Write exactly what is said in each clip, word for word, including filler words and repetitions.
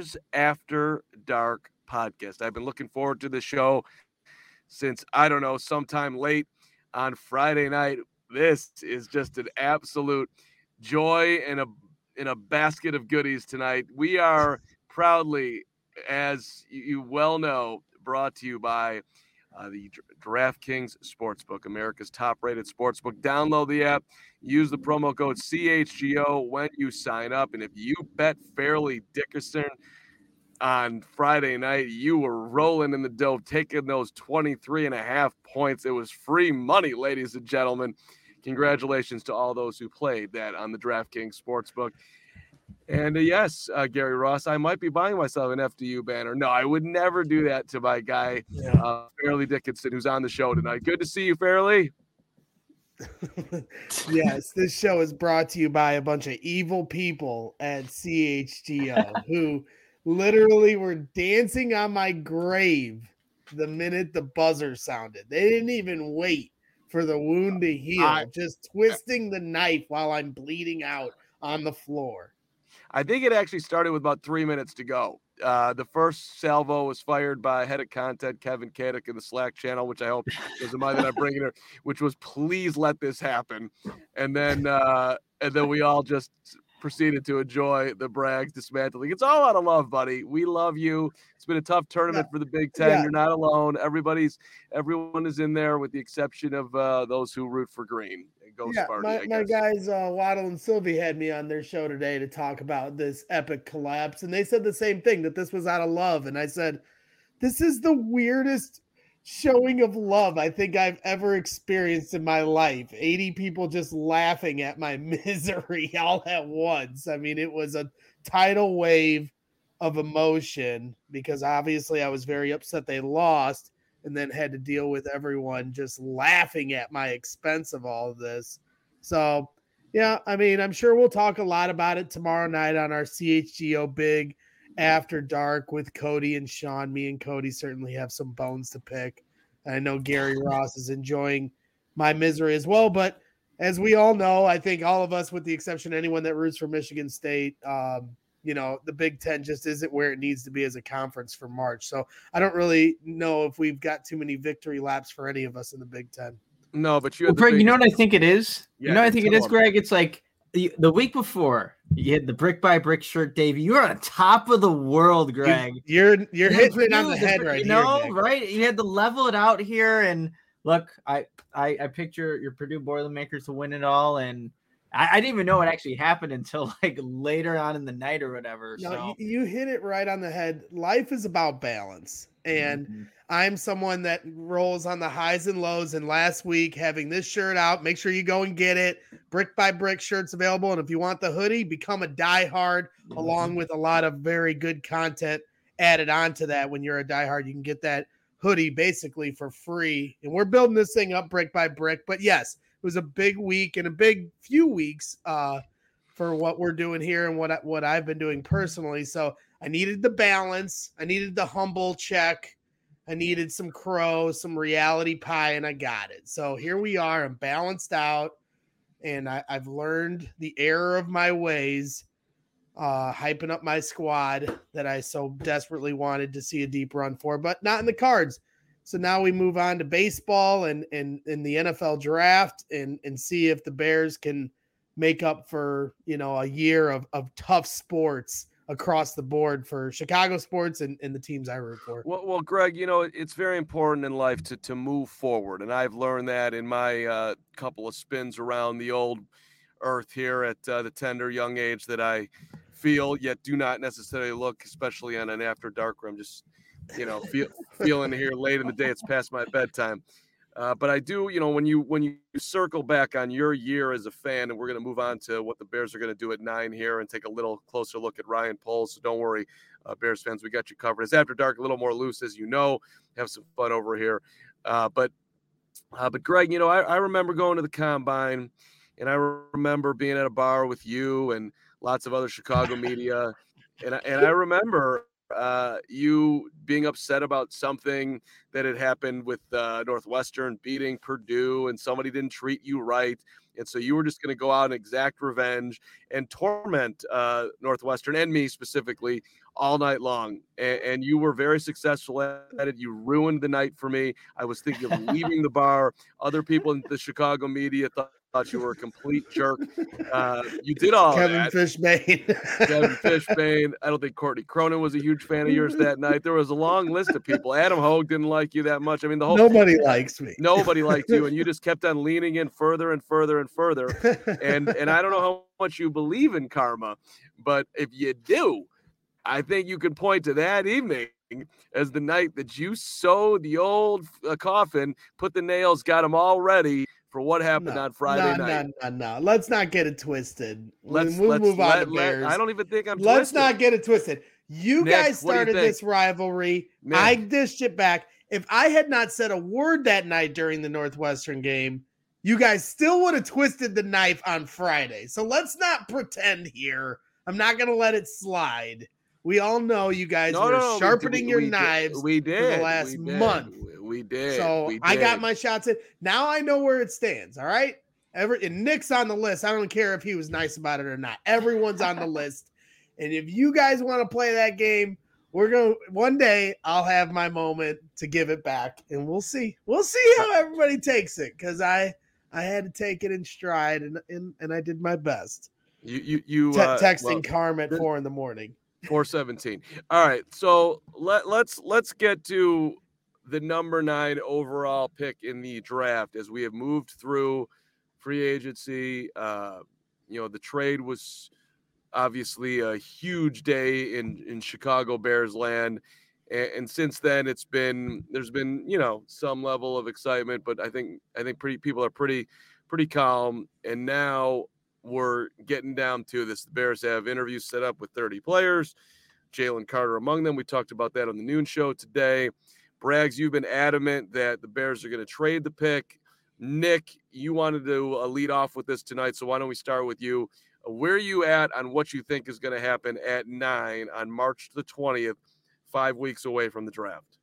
Bears After Dark podcast. I've been looking forward to the show since, I don't know, sometime late on Friday night. This is just an absolute joy and a in a basket of goodies tonight. We are proudly, as you well know, brought to you by uh, the DraftKings Sportsbook, America's top-rated sportsbook. Download the app, use the promo code C H G O when you sign up, and if you bet fairly Dickerson on Friday night, you were rolling in the dough, taking those twenty-three and a half points. It was free money, ladies and gentlemen. Congratulations to all those who played that on the DraftKings Sportsbook. And uh, yes, uh, Gary Ross, I might be buying myself an F D U banner. No, I would never do that to my guy, yeah. uh, Fairleigh Dickinson, who's on the show tonight. Good to see you, Fairleigh. Yes, this show is brought to you by a bunch of evil people at C H G O who literally were dancing on my grave the minute the buzzer sounded. They didn't even wait for the wound to heal, I, just twisting the knife while I'm bleeding out on the floor. I think it actually started with about three minutes to go. Uh, the first salvo was fired by head of content Kevin Kadek in the Slack channel, which I hope doesn't mind that I'm bringing her, which was please let this happen. And then uh, and then we all just proceeded to enjoy the Brags dismantling. It's all out of love, buddy. We love you. It's been a tough tournament yeah. for the Big Ten. Yeah. You're not alone. Everybody's everyone is in there with the exception of uh, those who root for green. Go yeah, Sparty, my, my guys uh, Waddle and Sylvie had me on their show today to talk about this epic collapse, and they said the same thing, that this was out of love. And I said, this is the weirdest showing of love I think I've ever experienced in my life. eighty people just laughing at my misery all at once. I mean, it was a tidal wave of emotion because obviously I was very upset they lost, and then had to deal with everyone just laughing at my expense of all of this. So, yeah, I mean, I'm sure we'll talk a lot about it tomorrow night on our C H G O Big After Dark with Cody and Sean. Me and Cody certainly have some bones to pick. I know Gary Ross is enjoying my misery as well. But as we all know, I think all of us, with the exception of anyone that roots for Michigan State, um, you know, the Big Ten just isn't where it needs to be as a conference for March. So I don't really know if we've got too many victory laps for any of us in the Big Ten. No, but you, well, Greg, biggest... you know what I think it is? Yeah, you know what I think it is, them. Greg? It's like the, the week before you had the brick by brick shirt, Davey. You were on top of the world, Greg. You, you're you're you hitting it on the head right you here. know, Nick. right? You had to level it out here. And look, I I, I picture your Purdue Boilermakers to win it all, and I, I didn't even know what actually happened until like later on in the night or whatever. No, so. you, you hit it right on the head. Life is about balance. And mm-hmm. I'm someone that rolls on the highs and lows. And last week, having this shirt out, make sure you go and get it. Brick by Brick shirts available. And if you want the hoodie, become a diehard, mm-hmm. along with a lot of very good content added onto that. When you're a diehard, you can get that hoodie basically for free. And we're building this thing up brick by brick. But yes, it was a big week and a big few weeks uh, for what we're doing here and what, I, what I've been doing personally. So I needed the balance. I needed the humble check. I needed some crow, some reality pie, and I got it. So here we are. I'm balanced out, and I, I've learned the error of my ways, uh, hyping up my squad that I so desperately wanted to see a deep run for, but not in the cards. So now we move on to baseball and and, and the N F L draft and, and see if the Bears can make up for, you know, a year of, of tough sports across the board for Chicago sports and, and the teams I root for. Well, well, Greg, you know, it's very important in life to, to move forward. And I've learned that in my uh, couple of spins around the old earth here at uh, the tender young age that I feel, yet do not necessarily look, especially on an after dark where I'm just, you know, feel, feeling here late in the day. It's past my bedtime. Uh, but I do, you know, when you when you circle back on your year as a fan, and we're going to move on to what the Bears are going to do at nine here and take a little closer look at Ryan Poles. So don't worry, uh, Bears fans, we got you covered. It's After Dark, a little more loose, as you know. Have some fun over here. Uh, but, uh, but Greg, you know, I, I remember going to the Combine, and I remember being at a bar with you and lots of other Chicago media. And I, and I remember uh, you being upset about something that had happened with uh, Northwestern beating Purdue and somebody didn't treat you right. And so you were just going to go out and exact revenge and torment uh, Northwestern and me specifically all night long. And, and you were very successful at it. You ruined the night for me. I was thinking of leaving the bar. Other people in the Chicago media thought, thought you were a complete jerk. Uh, you did all Kevin that. Fishbane. Kevin Fishbane. I don't think Courtney Cronin was a huge fan of yours that night. There was a long list of people. Adam Hogue didn't like you that much. I mean, the whole nobody likes me. Nobody liked you, and you just kept on leaning in further and further and further. And and I don't know how much you believe in karma, but if you do, I think you can point to that evening as the night that you sewed the old uh, coffin, put the nails, got them all ready for what happened no, on Friday no, night. No, no, no. Let's not get it twisted. Let's, we'll let's move on let, to let, Bears. I don't even think I'm Let's twisted. not get it twisted. You Nick, guys what do you started think? this rivalry. Nick. I dished it back. If I had not said a word that night during the Northwestern game, you guys still would have twisted the knife on Friday. So let's not pretend here. I'm not going to let it slide. We all know you guys No, were no, no, sharpening we, your we knives did, we did, for the last we did, month. We, we did. So we I got did. my shots in. Now I know where it stands. All right. Every and Nick's on the list. I don't care if he was nice about it or not. Everyone's on the list. And if you guys want to play that game, we're going to one day I'll have my moment to give it back, and we'll see. We'll see how everybody takes it. Cause I, I had to take it in stride and, and, and I did my best. You, you, you Te- uh, texting well, Carm at this- four in the morning. four seventeen. All right. So let, let's, let's get to the number nine overall pick in the draft as we have moved through free agency. Uh, you know, the trade was obviously a huge day in, in Chicago Bears land. And, and since then it's been, there's been, you know, some level of excitement, but I think, I think pretty people are pretty, pretty calm. And now we're getting down to this. The Bears have interviews set up with thirty players, Jalen Carter among them. We talked about that on the noon show today. Braggs, you've been adamant that the Bears are going to trade the pick. Nick, you wanted to uh, lead off with this tonight, so why don't we start with you? Uh, where are you at on what you think is going to happen at nine on March the twentieth, five weeks away from the draft?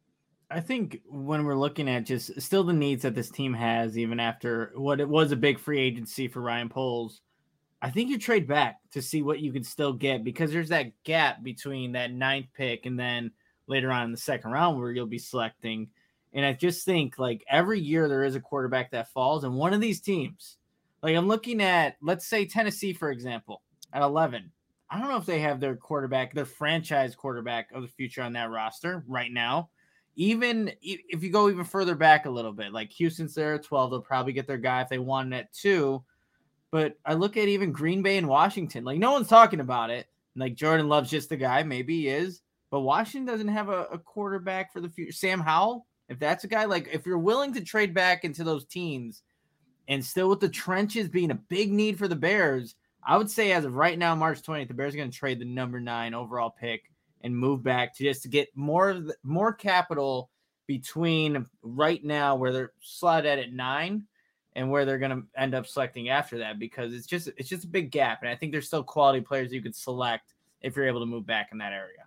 I think when we're looking at just still the needs that this team has, even after what it was a big free agency for Ryan Poles, I think you trade back to see what you can still get, because there's that gap between that ninth pick and then later on in the second round where you'll be selecting. And I just think like every year there is a quarterback that falls, and one of these teams, like I'm looking at, let's say Tennessee, for example, at eleven. I don't know if they have their quarterback, their franchise quarterback of the future on that roster right now. Even if you go even further back a little bit, like Houston's there at twelve, they'll probably get their guy if they want it at two. But I look at even Green Bay and Washington, like no one's talking about it. Like Jordan Love's just the guy, maybe he is, but Washington doesn't have a, a quarterback for the future. Sam Howell, if that's a guy, like if you're willing to trade back into those teams and still with the trenches being a big need for the Bears, I would say as of right now, March twentieth, the Bears are going to trade the number nine overall pick and move back to just to get more of the, more capital between right now where they're slotted at at nine and where they're going to end up selecting after that, because it's just it's just a big gap, and I think there's still quality players you could select if you're able to move back in that area.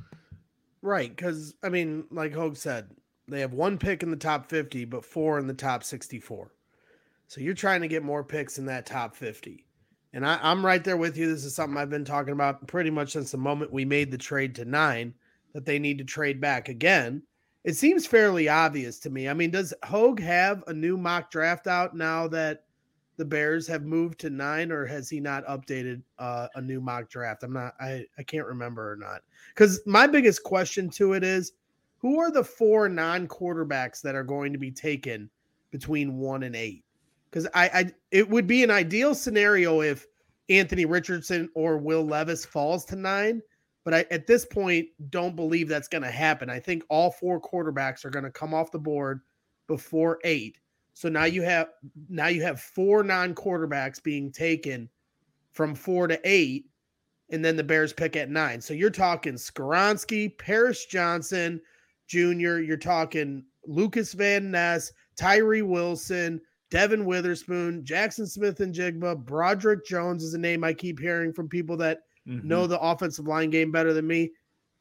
Right, because I mean, like Hogue said, they have one pick in the top fifty, but four in the top sixty-four. So you're trying to get more picks in that top fifty. And I, I'm right there with you. This is something I've been talking about pretty much since the moment we made the trade to nine, that they need to trade back again. It seems fairly obvious to me. I mean, does Hogue have a new mock draft out now that the Bears have moved to nine, or has he not updated uh, a new mock draft? I'm not, I, I can't remember or not. Because my biggest question to it is, who are the four non-quarterbacks that are going to be taken between one and eight? Because I, I, it would be an ideal scenario if Anthony Richardson or Will Levis falls to nine, but I, at this point, don't believe that's going to happen. I think all four quarterbacks are going to come off the board before eight. So now you have now you have four non-quarterbacks being taken from four to eight, and then the Bears pick at nine. So you're talking Skoronski, Paris Johnson Junior You're talking Lucas Van Ness, Tyree Wilson, Devin Witherspoon, Jackson Smith and Jigba, Broderick Jones is a name I keep hearing from people that mm-hmm. know the offensive line game better than me.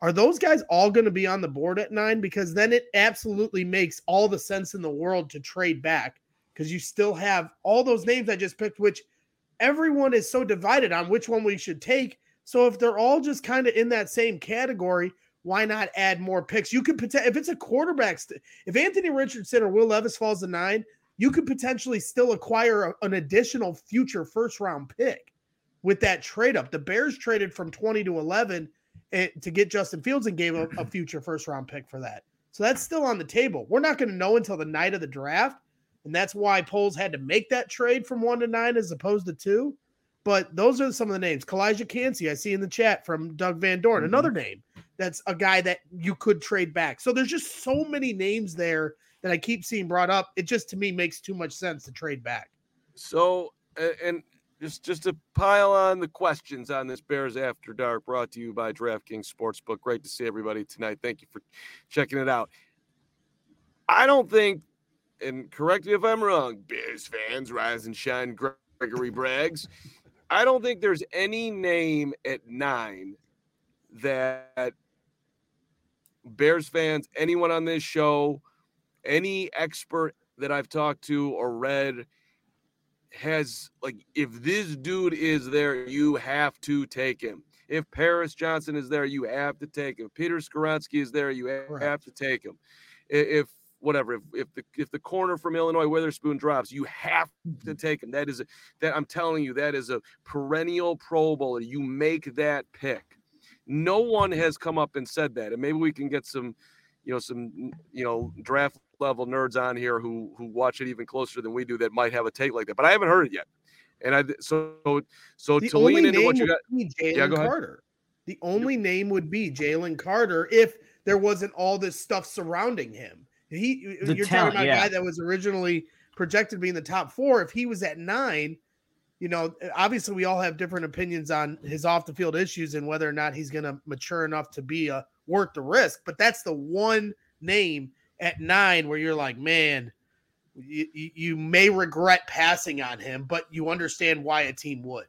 Are those guys all going to be on the board at nine? Because then it absolutely makes all the sense in the world to trade back, because you still have all those names I just picked, which everyone is so divided on which one we should take. So if they're all just kind of in that same category, why not add more picks? You could potentially, if it's a quarterback, st- if Anthony Richardson or Will Levis falls to nine, you could potentially still acquire a, an additional future first round pick with that trade up. The Bears traded from twenty to eleven to get Justin Fields and gave a, a future first round pick for that. So that's still on the table. We're not going to know until the night of the draft. And that's why Poles had to make that trade from one to nine as opposed to two. But those are some of the names. Kalijah Cansey, I see in the chat from Doug Van Dorn, mm-hmm. another name. That's a guy that you could trade back. So there's just so many names there that I keep seeing brought up. It just, to me, makes too much sense to trade back. So, and Just just to pile on the questions on this Bears After Dark, brought to you by DraftKings Sportsbook. Great to see everybody tonight. Thank you for checking it out. I don't think, and correct me if I'm wrong, Bears fans, rise and shine, Gregory Braggs. I don't think there's any name at nine that Bears fans, anyone on this show, any expert that I've talked to or read has, like, if this dude is there, you have to take him. If Paris Johnson is there, you have to take him. Peter Skoronski is there, you have Correct. to take him. If whatever, if if the if the corner from Illinois Witherspoon drops, you have to take him. That is a, that I'm telling you, that is a perennial Pro Bowler. You make that pick. No one has come up and said that, and maybe we can get some, you know, some you know draft level nerds on here who who watch it even closer than we do that might have a take like that, but I haven't heard it yet. And I so so the to lean into what you got, yeah, go Carter. Ahead. The only name would be Jalen Carter if there wasn't all this stuff surrounding him. He the you're talent, talking about yeah. a guy that was originally projected to be in the top four. If he was at nine, you know, obviously we all have different opinions on his off the field issues and whether or not he's going to mature enough to be a worth the risk. But that's the one name at nine where you're like, man, you, you may regret passing on him, but you understand why a team would.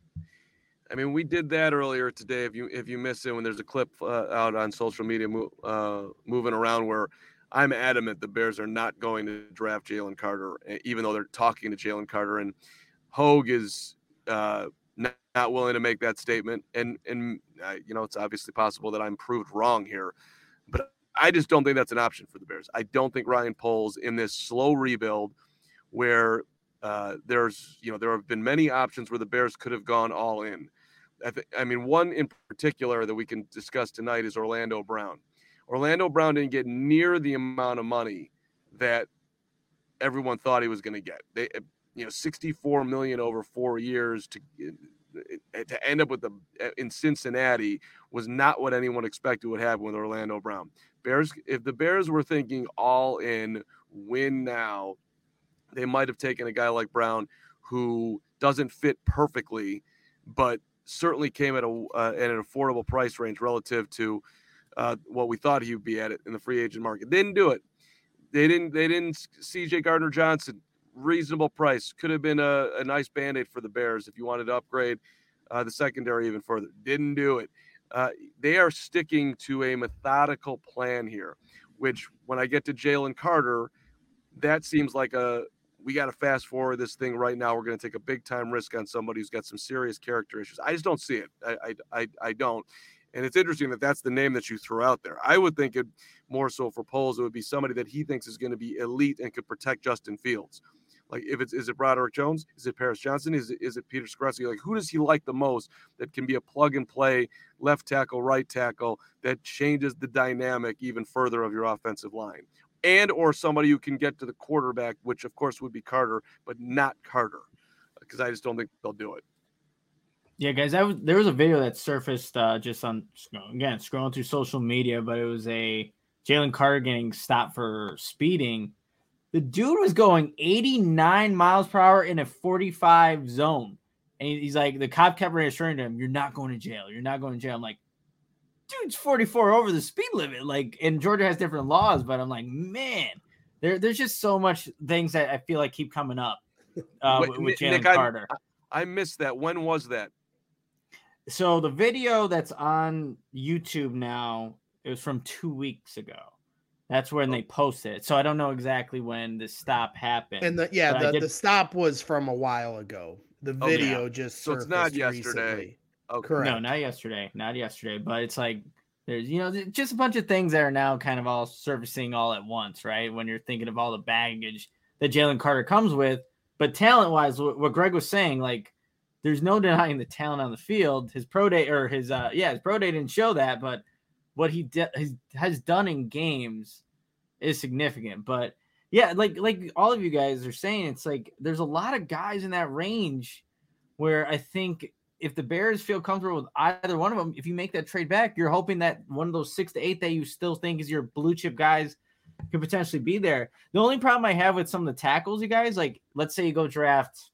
I mean, we did that earlier today. If you if you missed it, when there's a clip uh, out on social media uh, moving around where I'm adamant the Bears are not going to draft Jalen Carter, even though they're talking to Jalen Carter, and Hogue is uh, not, not willing to make that statement. And and uh, you know, it's obviously possible that I'm proved wrong here, but I just don't think that's an option for the Bears. I don't think Ryan Poles in this slow rebuild where uh, there's, you know, there have been many options where the Bears could have gone all in. I, th- I mean, one in particular that we can discuss tonight is Orlando Brown. Orlando Brown didn't get near the amount of money that everyone thought he was going to get. They, you know, sixty-four million dollars over four years to to end up with the in Cincinnati was not what anyone expected would happen with Orlando Brown. Bears, if the Bears were thinking all in, win now, they might have taken a guy like Brown who doesn't fit perfectly, but certainly came at a uh, at an affordable price range relative to uh, what we thought he would be at it in the free agent market. Didn't do it. They didn't. They didn't. C J Gardner Johnson, reasonable price, could have been a, a nice band-aid for the Bears if you wanted to upgrade uh, the secondary even further. Didn't do it. Uh, they are sticking to a methodical plan here, which when I get to Jalen Carter, that seems like a we got to fast forward this thing right now. We're going to take a big time risk on somebody who's got some serious character issues. I just don't see it. I, I, I, I don't. And it's interesting that that's the name that you threw out there. I would think it more so for Poles, it would be somebody that he thinks is going to be elite and could protect Justin Fields. Like, if it's, is it Broderick Jones? Is it Paris Johnson? Is it, is it Peter Skoronski? Like, who does he like the most that can be a plug and play left tackle, right tackle that changes the dynamic even further of your offensive line? And or somebody who can get to the quarterback, which of course would be Carter, but not Carter, because I just don't think they'll do it. Yeah, guys, that was, there was a video that surfaced uh, just on, again, scrolling through social media, but it was a Jalen Carter getting stopped for speeding. The dude was going eighty-nine miles per hour in a forty-five zone. And he's like, the cop kept reassuring him, you're not going to jail. You're not going to jail. I'm like, dude's forty-four over the speed limit. Like, and Georgia has different laws, but I'm like, man, there, there's just so much things that I feel like keep coming up uh, Wait, with, with Jalen Nick, Carter. I, I missed that. When was that? So the video that's on YouTube now, it was from two weeks ago. That's when they posted it. So I don't know exactly when the stop happened. And the yeah, the, did... the stop was from a while ago. The video okay. just so it's not yesterday. Recently. Okay. Correct. No, not yesterday. Not yesterday. But it's like there's you know just a bunch of things that are now kind of all surfacing all at once, right? When you're thinking of all the baggage that Jalen Carter comes with, but talent wise, what Greg was saying, like there's no denying the talent on the field. His pro day or his uh yeah his pro day didn't show that, but what he de- has, has done in games is significant. But yeah, like like all of you guys are saying, it's like there's a lot of guys in that range where I think if the Bears feel comfortable with either one of them, if you make that trade back, you're hoping that one of those six to eight that you still think is your blue chip guys could potentially be there. The only problem I have with some of the tackles, you guys, like let's say you go draft,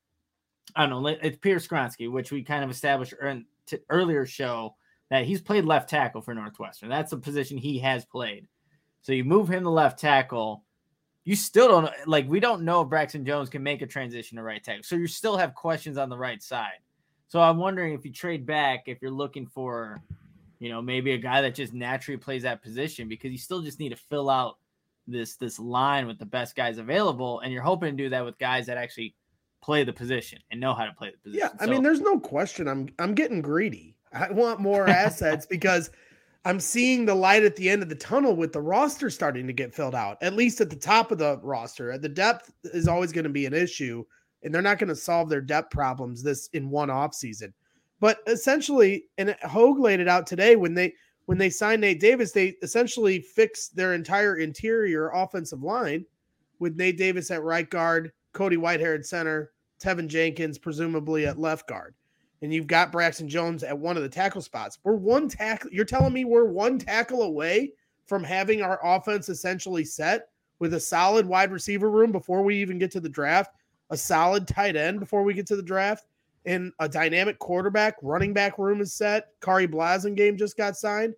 I don't know, it's Peter Skronsky, which we kind of established in t- earlier show that he's played left tackle for Northwestern. That's a position he has played. So you move him to left tackle. You still don't like, we don't know if Braxton Jones can make a transition to right tackle. So you still have questions on the right side. So I'm wondering if you trade back, if you're looking for, you know, maybe a guy that just naturally plays that position, because you still just need to fill out this, this line with the best guys available. And you're hoping to do that with guys that actually play the position and know how to play the position. Yeah. I so, mean, there's no question. I'm, I'm getting greedy. I want more assets because I'm seeing the light at the end of the tunnel with the roster starting to get filled out, at least at the top of the roster. The depth is always going to be an issue, and they're not going to solve their depth problems this in one offseason. But essentially, and Hogue laid it out today, when they when they signed Nate Davis, they essentially fixed their entire interior offensive line with Nate Davis at right guard, Cody Whitehair at center, Tevin Jenkins presumably at left guard. And you've got Braxton Jones at one of the tackle spots. We're one tackle. You're telling me we're one tackle away from having our offense essentially set with a solid wide receiver room before we even get to the draft, a solid tight end before we get to the draft, and a dynamic quarterback, running back room is set. Kari Blasingame just got signed.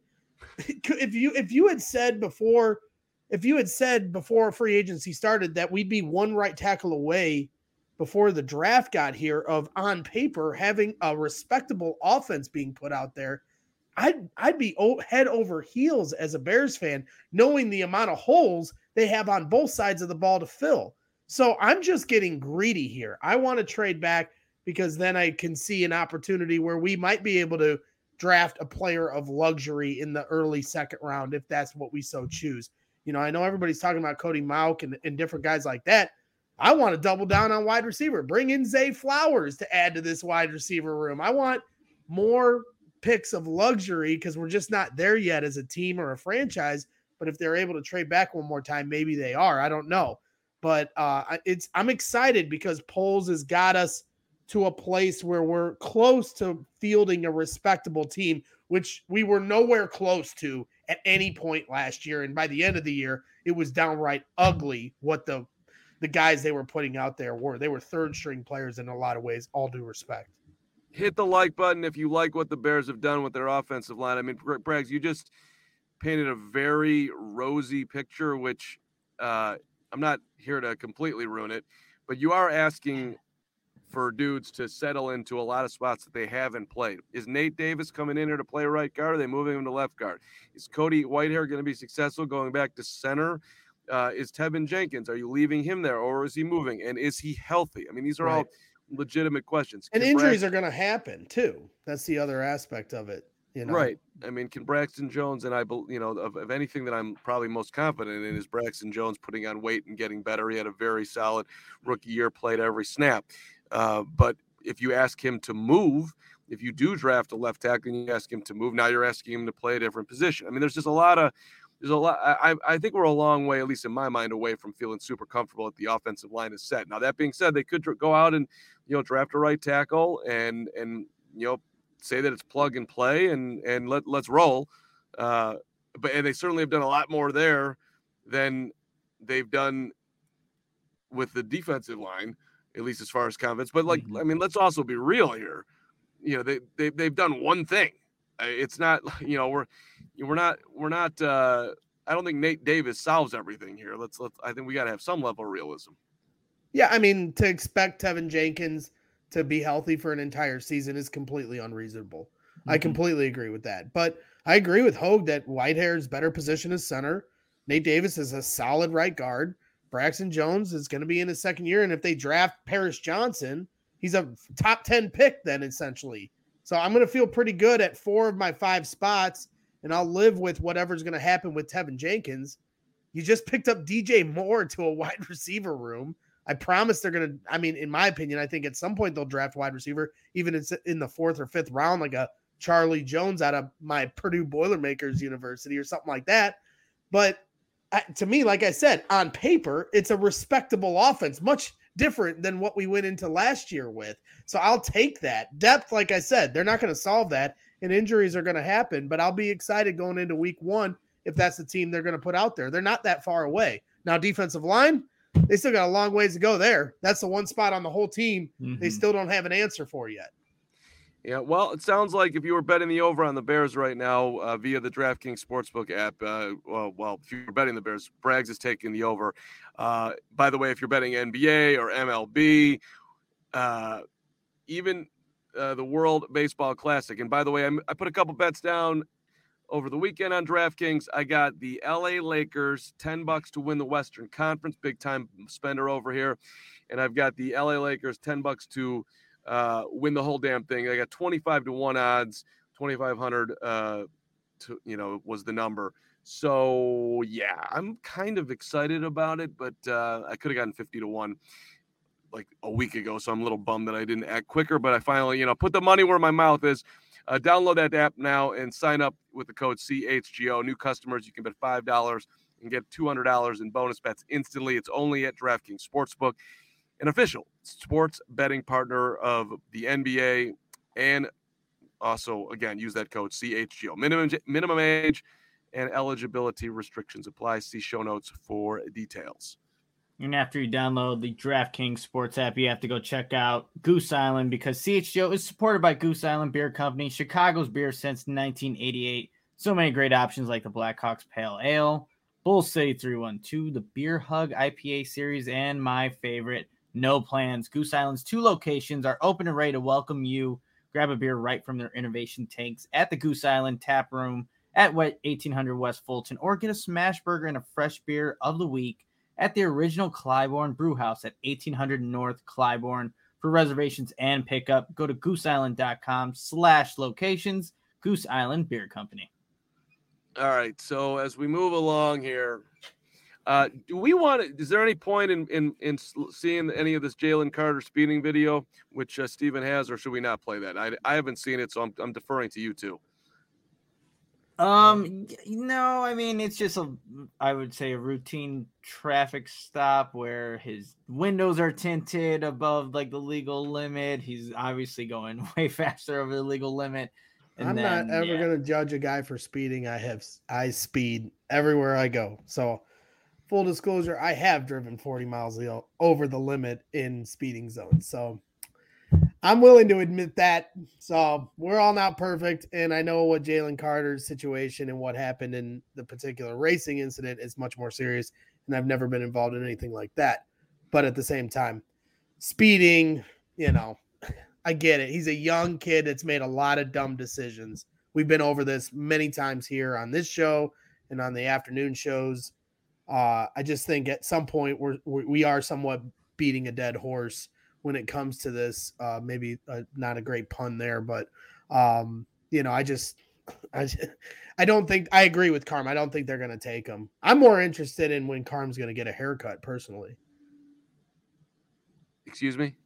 If you if you had said before, if you had said before free agency started that we'd be one right tackle away before the draft got here of on paper having a respectable offense being put out there, I'd I'd be head over heels as a Bears fan, knowing the amount of holes they have on both sides of the ball to fill. So I'm just getting greedy here. I want to trade back because then I can see an opportunity where we might be able to draft a player of luxury in the early second round if that's what we so choose. You know, I know everybody's talking about Cody Mauch and, and different guys like that. I want to double down on wide receiver. Bring in Zay Flowers to add to this wide receiver room. I want more picks of luxury because we're just not there yet as a team or a franchise. But if they're able to trade back one more time, maybe they are. I don't know. But uh, it's I'm excited because Poles has got us to a place where we're close to fielding a respectable team, which we were nowhere close to at any point last year. And by the end of the year, it was downright ugly what the the guys they were putting out there were. They were third string players in a lot of ways, all due respect. Hit the like button if you like what the Bears have done with their offensive line. I mean, Braggs, you just painted a very rosy picture, which uh, I'm not here to completely ruin it, but you are asking for dudes to settle into a lot of spots that they haven't played. Is Nate Davis coming in here to play right guard? Are they moving him to left guard? Is Cody Whitehair going to be successful going back to center? Uh, is Tevin Jenkins, are you leaving him there or is he moving? And is he healthy? I mean, these are right. all legitimate questions. And can injuries Braxton, are going to happen too. That's the other aspect of it. You know? Right. I mean, can Braxton Jones, and I, you know, of, of anything that I'm probably most confident in is Braxton Jones putting on weight and getting better. He had a very solid rookie year, played every snap. Uh, but if you ask him to move, if you do draft a left tackle and you ask him to move, now you're asking him to play a different position. I mean, there's just a lot of, There's a lot. I, I think we're a long way, at least in my mind, away from feeling super comfortable that the offensive line is set. Now, that being said, they could go out and, you know, draft a right tackle and, and, you know, say that it's plug and play and, and let, let's roll. Uh, but, and they certainly have done a lot more there than they've done with the defensive line, at least as far as confidence. But like, mm-hmm. I mean, let's also be real here. You know, they, they, they've done one thing. It's not, you know, we're, we're not, we're not, uh, I don't think Nate Davis solves everything here. Let's, let's, I think we got to have some level of realism. Yeah. I mean, to expect Tevin Jenkins to be healthy for an entire season is completely unreasonable. I completely agree with that. But I agree with Hogue that Whitehair is better position as center. Nate Davis is a solid right guard. Braxton Jones is going to be in his second year. And if they draft Paris Johnson, he's a top ten pick then essentially. So I'm going to feel pretty good at four of my five spots, and I'll live with whatever's going to happen with Tevin Jenkins. You just picked up D J Moore to a wide receiver room. I promise they're going to, I mean, in my opinion, I think at some point they'll draft wide receiver, even if it's in the fourth or fifth round, like a Charlie Jones out of my Purdue Boilermakers University or something like that. But uh, to me, like I said, on paper, it's a respectable offense, much different than what we went into last year with. So I'll take that. Depth, like I said, they're not going to solve that, and injuries are going to happen, but I'll be excited going into week one if that's the team they're going to put out there. They're not that far away. Now, defensive line, they still got a long ways to go there. That's the one spot on the whole team mm-hmm. they still don't have an answer for yet. Yeah, well, it sounds like if you were betting the over on the Bears right now uh, via the DraftKings Sportsbook app, uh, well, well, if you're betting the Bears, Braggs is taking the over. Uh, by the way, if you're betting N B A or M L B, uh, even uh, the World Baseball Classic. And by the way, I'm, I put a couple bets down over the weekend on DraftKings. I got the L A Lakers, ten bucks to win the Western Conference, big time spender over here. And I've got the L A Lakers, ten bucks to uh, win the whole damn thing. I got twenty-five to one odds, twenty-five hundred, uh, to, you know, was the number. So yeah, I'm kind of excited about it, but uh, I could have gotten fifty to one like a week ago. So I'm a little bummed that I didn't act quicker, but I finally, you know, put the money where my mouth is. Uh, download that app now and sign up with the code C H G O. New customers, you can bet five dollars and get two hundred dollars in bonus bets instantly. It's only at DraftKings Sportsbook, an official sports betting partner of the N B A. And also, again, use that code C H G O. Minimum, minimum age and eligibility restrictions apply. See show notes for details. And after you download the DraftKings Sports app, you have to go check out Goose Island because C H G O is supported by Goose Island Beer Company, Chicago's beer since nineteen eighty-eight. So many great options like the Blackhawks Pale Ale, Bull City three one two, the Beer Hug I P A series, and my favorite, No Plans. Goose Island's two locations are open and ready to welcome you. Grab a beer right from their innovation tanks at the Goose Island Tap Room at eighteen hundred West Fulton, or get a smash burger and a fresh beer of the week at the original Clybourne Brewhouse at eighteen hundred North Clybourne. For reservations and pickup, go to gooseisland.com slash locations. Goose Island Beer Company. All right, so as we move along here, uh, do we want to, is there any point in, in, in seeing any of this Jalen Carter speeding video, which uh, Steven has, or should we not play that? I, I haven't seen it, so I'm, I'm deferring to you two. Um, no, I mean, it's just a, I would say a routine traffic stop where his windows are tinted above like the legal limit. He's obviously going way faster over the legal limit. And I'm then, not ever yeah. going to judge a guy for speeding. I have, I speed everywhere I go. So full disclosure, I have driven forty miles over the limit in speeding zones. So I'm willing to admit that. So we're all not perfect. And I know what Jalen Carter's situation and what happened in the particular racing incident is much more serious. And I've never been involved in anything like that. But at the same time, speeding, you know, I get it. He's a young kid that's made a lot of dumb decisions. We've been over this many times here on this show and on the afternoon shows. Uh, I just think at some point we're, we are somewhat beating a dead horse when it comes to this. Uh, maybe uh, not a great pun there, but um, you know, I just, I, just, I don't think I agree with Carm. I don't think they're going to take him. I'm more interested in when Carm's going to get a haircut personally. Excuse me.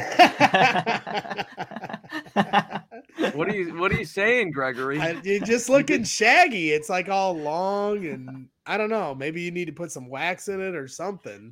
What are you what are you saying, Gregory? I, you're just looking shaggy. It's like all long, and I don't know. Maybe you need to put some wax in it or something.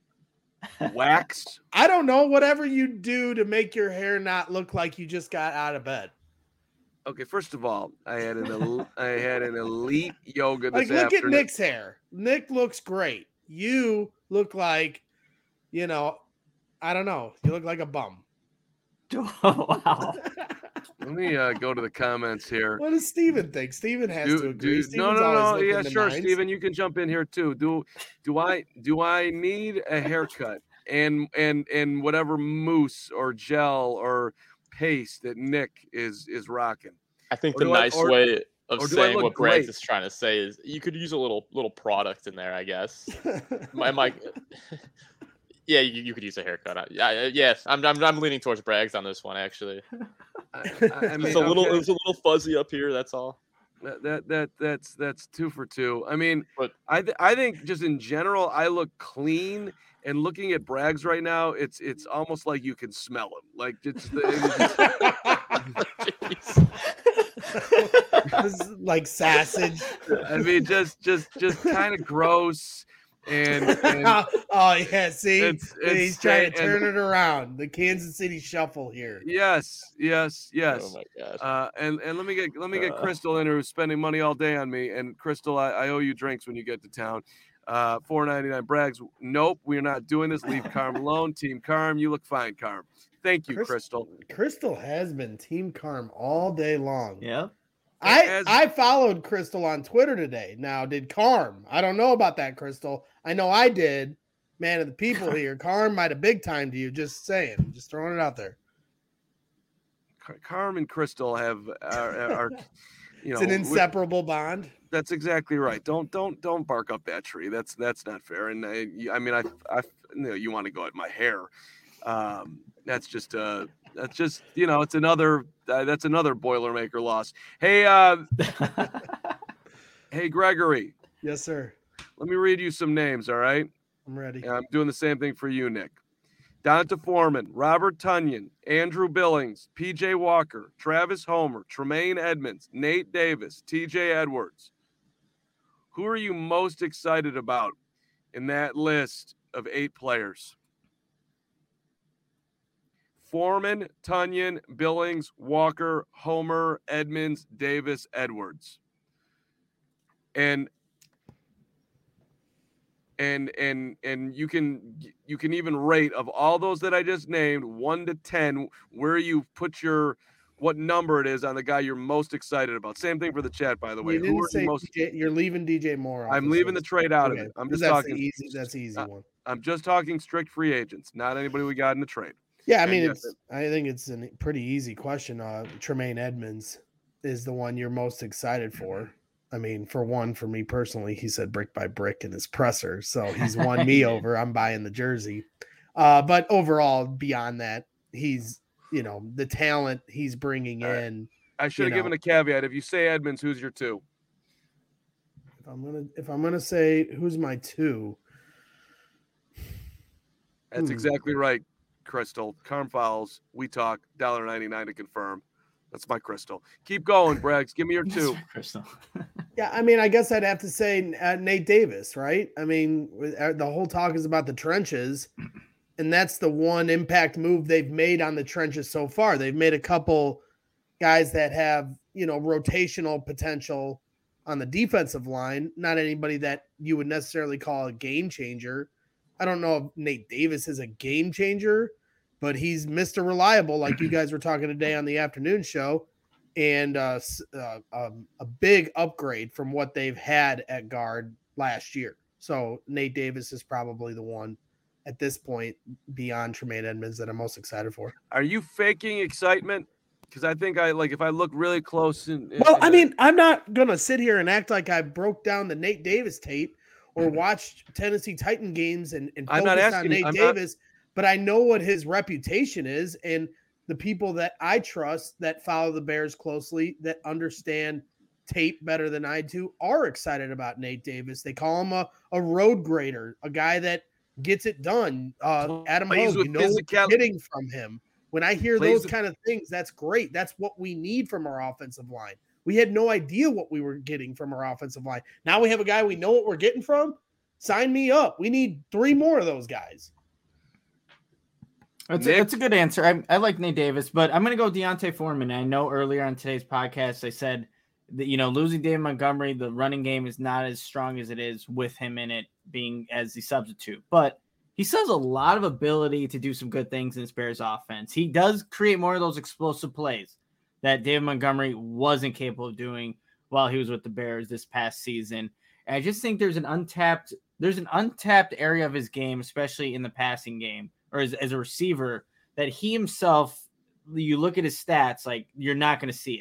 Wax? I don't know. Whatever you do to make your hair not look like you just got out of bed. Okay, first of all, I had an el- I had an elite yoga this like, look afternoon. at Nick's hair. Nick looks great. You look like, you know, I don't know. You look like a bum. Oh, wow. Let me uh, go to the comments here. What does Steven think? Steven has do, to agree. Do, no, no, no. Yeah, sure, nines. Steven, you can jump in here too. Do do I do I need a haircut and and and whatever mousse or gel or paste that Nick is is rocking? I think Or the do I- nice or- way of or do I saying look what Braggs great? is trying to say is you could use a little little product in there, I guess. My, my yeah, you, you could use a haircut. I- Yeah, yeah. I'm, I'm I'm leaning towards Braggs on this one actually. I, I, I mean, It's a little okay, it's a little fuzzy up here. That's all. that, that that that's that's two for two. I mean, But I th- I think just in general, I look clean. And looking at Braggs right now, it's it's almost like you can smell him. Like it's the, It's like sausage. I mean, just just just kind of gross. And, and oh yeah, see, it's- it's he's trying to sta- and- turn it around. The Kansas City Shuffle here. yes, yes, yes. oh my gosh. Uh, and and let me get let me get Uh. Crystal in, who's spending money all day on me. And Crystal, I, I owe you drinks when you get to town. Uh, four ninety-nine. Braggs. Nope, we're not doing this. Leave Carm alone. Team Carm, you look fine, Carm. Thank you, Chris- Crystal. Crystal has been Team Carm all day long. Yep. I As- I followed Crystal on Twitter today. Now, did Carm? I don't know about that, Crystal. I know I did. Man of the people here. Carm might have big timed you. Just saying. Just throwing it out there. Car- Carm and Crystal have are, are you know It's an we- inseparable bond. That's exactly right. Don't don't don't bark up that tree. That's that's not fair. And I, I mean, I I you know you want to go at my hair. Um, that's just uh that's just you know it's another uh, that's another Boilermaker loss. Hey uh hey Gregory, Yes, sir. let me read you some names. All right, I'm ready. and I'm doing the same thing for you, Nick. Donta Foreman, Robert Tunyon, Andrew Billings, P J Walker, Travis Homer, Tremaine Edmonds, Nate Davis, T J Edwards. Who are you most excited about in that list of eight players? Foreman, Tunyon, Billings, Walker, Homer, Edmonds, Davis, Edwards. And and and and you can you can even rate of all those that I just named one to ten where you put your what number it is on the guy you're most excited about. Same thing for the chat, by the way. You Who didn't are say you most? D J, you're leaving D J Moore. off I'm this leaving the list. trade out Okay, of it. I'm 'cause just that's talking. the easy. That's the easy uh, one. I'm just talking strict free agents, not anybody we got in the trade. Yeah, I and mean, yes, it's. I think it's a pretty easy question. Uh, Tremaine Edmonds is the one you're most excited for. I mean, for one, for me personally, he said brick by brick in his presser, so he's won me over. I'm buying the jersey. Uh, but overall, beyond that, he's you know the talent he's bringing All right. in. I should have you given know. a caveat. If you say Edmonds, who's your two? If I'm gonna if I'm gonna say who's my two, That's Hmm. exactly right, Crystal. Carm Fowles. We talk. one dollar ninety-nine to confirm. That's my Crystal. Keep going, Braggs. Give me your two. Crystal. yeah, I mean, I guess I'd have to say uh, Nate Davis, right? I mean, with- uh, the whole talk is about the trenches, and that's the one impact move they've made on the trenches so far. They've made a couple guys that have, you know, rotational potential on the defensive line, not anybody that you would necessarily call a game changer. I don't know if Nate Davis is a game changer, but he's Mister Reliable, like you guys were talking today on the afternoon show, and uh, s- uh, um, a big upgrade from what they've had at guard last year. So Nate Davis is probably the one at this point beyond Tremaine Edmonds that I'm most excited for. Are you faking excitement? Because I think I like if I look really close. In, in- Well, in I the- mean, I'm not going to sit here and act like I broke down the Nate Davis tape or watched Tennessee Titan games and, and I'm not focused on asking- Nate I'm not- Davis, but I know what his reputation is. And the people that I trust that follow the Bears closely, that understand tape better than I do, are excited about Nate Davis. They call him a, a road grader, a guy that gets it done. Uh, Adam Plays Hogue, with you know what you're physicality. getting from him. When I hear Plays those with- kind of things, that's great. That's what we need from our offensive line. We had no idea what we were getting from our offensive line. Now we have a guy we know what we're getting from. Sign me up. We need three more of those guys. That's a, Nick? that's a good answer. I, I like Nate Davis, but I'm going to go Deontay Foreman. I know earlier on today's podcast, I said that, you know, losing David Montgomery, the running game is not as strong as it is with him in it being as the substitute, but he still has a lot of ability to do some good things in this Bears offense. He does create more of those explosive plays that David Montgomery wasn't capable of doing while he was with the Bears this past season. And I just think there's an untapped, there's an untapped area of his game, especially in the passing game or as, as a receiver, that he himself, you look at his stats, like you're not going to see it.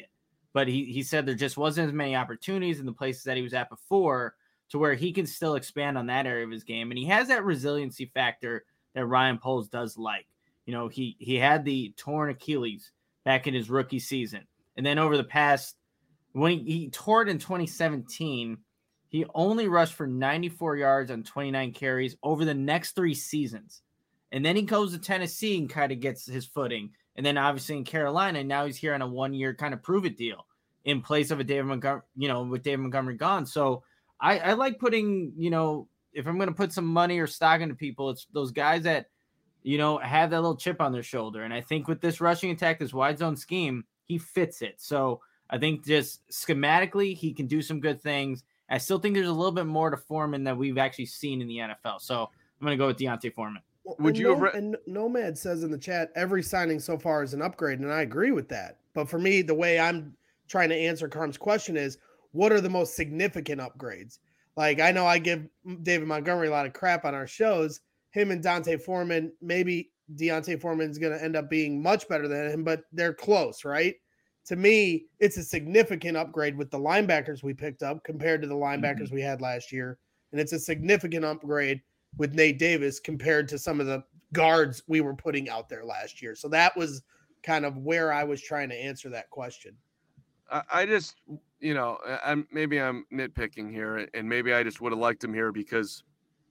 but he, he said there just wasn't as many opportunities in the places that he was at before to where he can still expand on that area of his game. And he has that resiliency factor that Ryan Poles does like. You know, he, he had the torn Achilles back in his rookie season. And then over the past, when he, he tore it in twenty seventeen, he only rushed for ninety-four yards on twenty-nine carries over the next three seasons. And then he goes to Tennessee and kind of gets his footing. And then obviously in Carolina, now he's here on a one-year kind of prove-it deal in place of a David Montgomery, you know, with David Montgomery gone. So I, I like putting, you know, if I'm going to put some money or stock into people, it's those guys that, you know, have that little chip on their shoulder. And I think with this rushing attack, this wide zone scheme, he fits it. So I think just schematically, he can do some good things. I still think there's a little bit more to Foreman that we've actually seen in the N F L. So I'm going to go with D'Onta Foreman. Well, Would you no, have re- and Nomad says in the chat, every signing so far is an upgrade, and I agree with that. But for me, the way I'm trying to answer Carm's question is, what are the most significant upgrades? Like, I know I give David Montgomery a lot of crap on our shows. Him and D'Onta Foreman, maybe D'Onta Foreman is going to end up being much better than him, but they're close, right? To me, it's a significant upgrade with the linebackers we picked up compared to the linebackers mm-hmm. we had last year. And it's a significant upgrade with Nate Davis compared to some of the guards we were putting out there last year. So that was kind of where I was trying to answer that question. I, I just, you know, I'm maybe I'm nitpicking here, and maybe I just would have liked him here because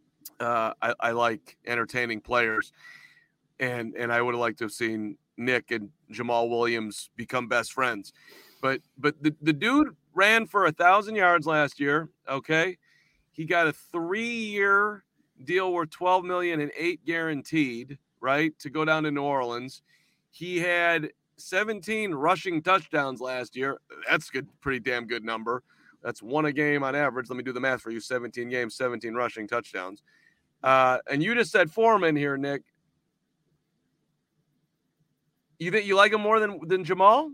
uh, I, I like entertaining players, and and I would have liked to have seen Nick and Jamal Williams become best friends. But but the, the dude ran for a thousand yards last year. Okay. He got a three-year deal worth twelve million dollars and eight guaranteed, right, to go down to New Orleans. He had seventeen rushing touchdowns last year. That's good, pretty damn good number. That's one a game on average. Let me do the math for you. seventeen games, seventeen rushing touchdowns. Uh, and you just said Foreman here, Nick. You think you like him more than than Jamal?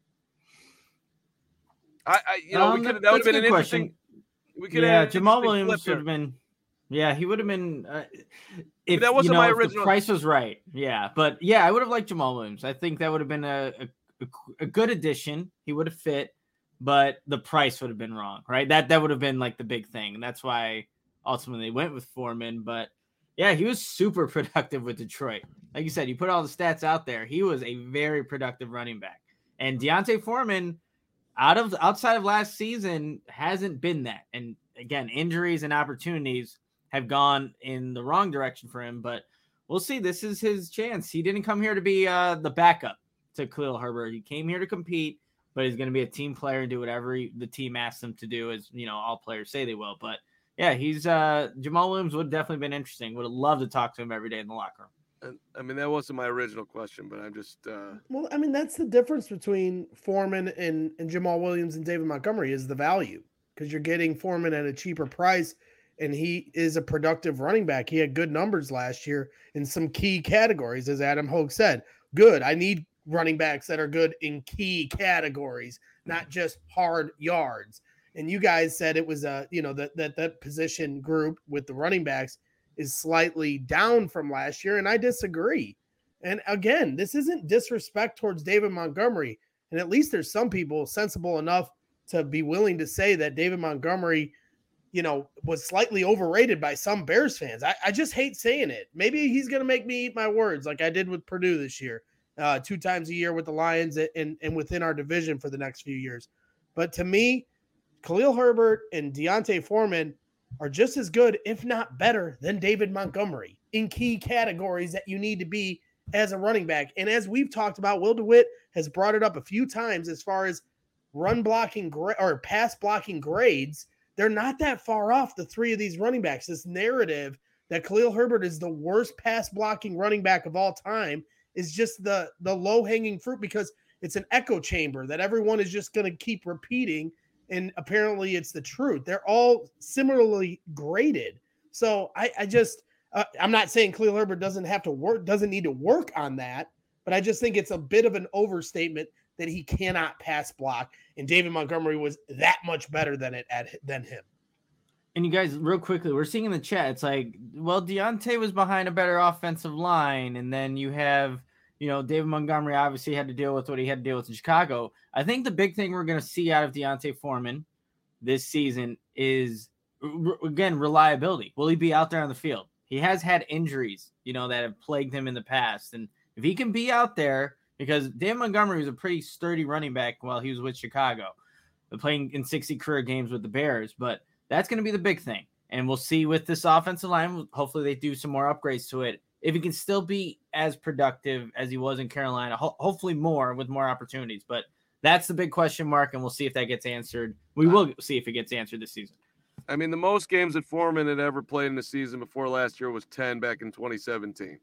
I, I you know, um, we could that, that would have been an question. interesting. We could yeah, have Jamal Williams would have been. Yeah, he would have been. Uh, if that wasn't you know, my if original. The price was right. Yeah, but yeah, I would have liked Jamal Williams. I think that would have been a, a a good addition. He would have fit, but the price would have been wrong, right? That that would have been like the big thing, and that's why ultimately they went with Foreman. But yeah, he was super productive with Detroit. Like you said, you put all the stats out there. He was a very productive running back, and D'Onta Foreman, out of outside of last season, hasn't been that. And again, injuries and opportunities have gone in the wrong direction for him, but we'll see. This is his chance. He didn't come here to be uh, the backup to Khalil Herbert. He came here to compete, but he's going to be a team player and do whatever he, the team asks him to do, as you know, all players say they will. But yeah, he's uh, Jamal Williams would have definitely been interesting. Would have loved to talk to him every day in the locker room. I mean, that wasn't my original question, but I'm just uh... well, I mean, that's the difference between Foreman and, and Jamal Williams and David Montgomery is the value, because you're getting Foreman at a cheaper price. And he is a productive running back. He had good numbers last year in some key categories, as Adam Hogue said. Good. I need running backs that are good in key categories, not just hard yards. And you guys said it was a, you know, that that that position group with the running backs is slightly down from last year, and I disagree. And again, this isn't disrespect towards David Montgomery. And at least there's some people sensible enough to be willing to say that David Montgomery, you know, was slightly overrated by some Bears fans. I, I just hate saying it. Maybe he's going to make me eat my words like I did with Purdue this year, uh, two times a year with the Lions and, and within our division for the next few years. But to me, Khalil Herbert and D'Onta Foreman are just as good, if not better, than David Montgomery in key categories that you need to be as a running back. And as we've talked about, Will DeWitt has brought it up a few times as far as run blocking gra- or pass blocking grades. They're not that far off, the three of these running backs. This narrative that Khalil Herbert is the worst pass blocking running back of all time is just the, the low-hanging fruit, because it's an echo chamber that everyone is just going to keep repeating, and apparently it's the truth. They're all similarly graded. So I, I just uh, – I'm not saying Khalil Herbert doesn't have to work, doesn't need to work on that, but I just think it's a bit of an overstatement that he cannot pass block, and David Montgomery was that much better than it at than him. And you guys, real quickly, we're seeing in the chat, it's like, well, D'Onta was behind a better offensive line, and then you have, you know, David Montgomery obviously had to deal with what he had to deal with in Chicago. I think the big thing we're going to see out of D'Onta Foreman this season is, again, reliability. Will he be out there on the field? He has had injuries, you know, that have plagued him in the past. And if he can be out there, because David Montgomery was a pretty sturdy running back while he was with Chicago, playing in sixty career games with the Bears. But that's going to be the big thing. And we'll see with this offensive line, hopefully they do some more upgrades to it. If he can still be as productive as he was in Carolina, ho- hopefully more with more opportunities. But that's the big question mark, and we'll see if that gets answered. We will see if it gets answered this season. I mean, the most games that Foreman had ever played in the season before last year was ten back in twenty seventeen.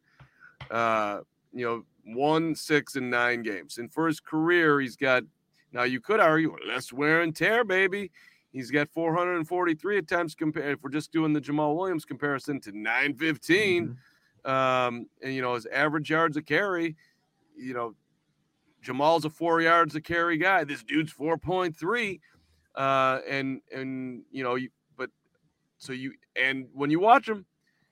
Uh, you know, one, six, and nine games. And for his career, he's got, now you could argue, less wear and tear, baby. He's got four hundred forty-three attempts compared, if we're just doing the Jamal Williams comparison, to nine fifteen. Mm-hmm. Um, and, you know, his average yards a carry, you know, Jamal's a four yards a carry guy. This dude's four point three. Uh, and, and, you know, you, but so you, and when you watch him,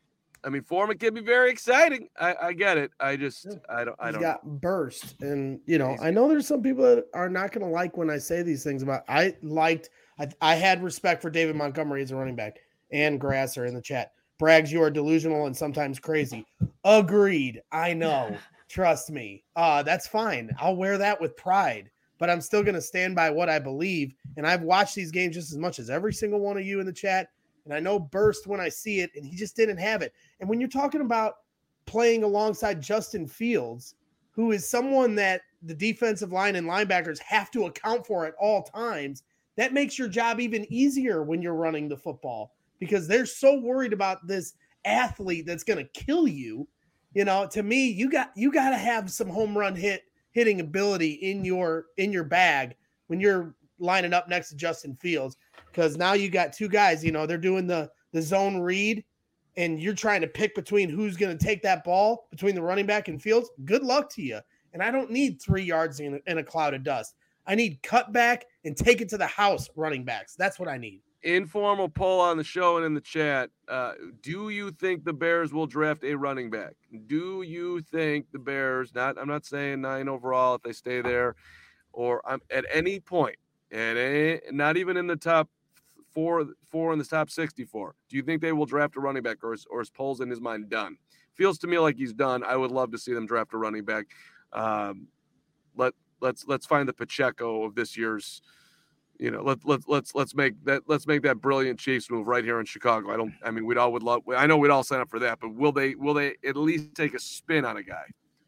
I mean, Foreman can be very exciting. I, I get it. I just, yeah. I don't, I don't He's got know. burst. And, you know, I know there's some people that are not going to like when I say these things about, I liked, I, I had respect for David Montgomery as a running back, and Grasser in the chat. Braggs, you are delusional and sometimes crazy. Agreed. I know. Trust me. Uh, that's fine. I'll wear that with pride, but I'm still going to stand by what I believe. And I've watched these games just as much as every single one of you in the chat. And I know burst when I see it, and he just didn't have it. And when you're talking about playing alongside Justin Fields, who is someone that the defensive line and linebackers have to account for at all times, that makes your job even easier when you're running the football, because they're so worried about this athlete that's going to kill you. You know, to me, you got you got to have some home run hit hitting ability in your in your bag when you're lining up next to Justin Fields, because now you got two guys, you know, they're doing the the zone read, and you're trying to pick between who's going to take that ball between the running back and Fields. Good luck to you. And I don't need three yards in a, in a cloud of dust. I need cut back and take it to the house running backs. That's what I need. Informal poll on the show and in the chat. Uh, do you think the Bears will draft a running back? Do you think the Bears, not, I'm not saying nine overall if they stay there, or um, at any point, at any, not even in the top four, four in the top sixty-four, do you think they will draft a running back, or is, or is Poles in his mind done? Feels to me like he's done. I would love to see them draft a running back. Um, let, let's, let's find the Pacheco of this year's. You know, let let let's let's make that let's make that brilliant Chiefs move right here in Chicago. I don't. I mean, we'd all would love. I know we'd all sign up for that, but will they? Will they at least take a spin on a guy?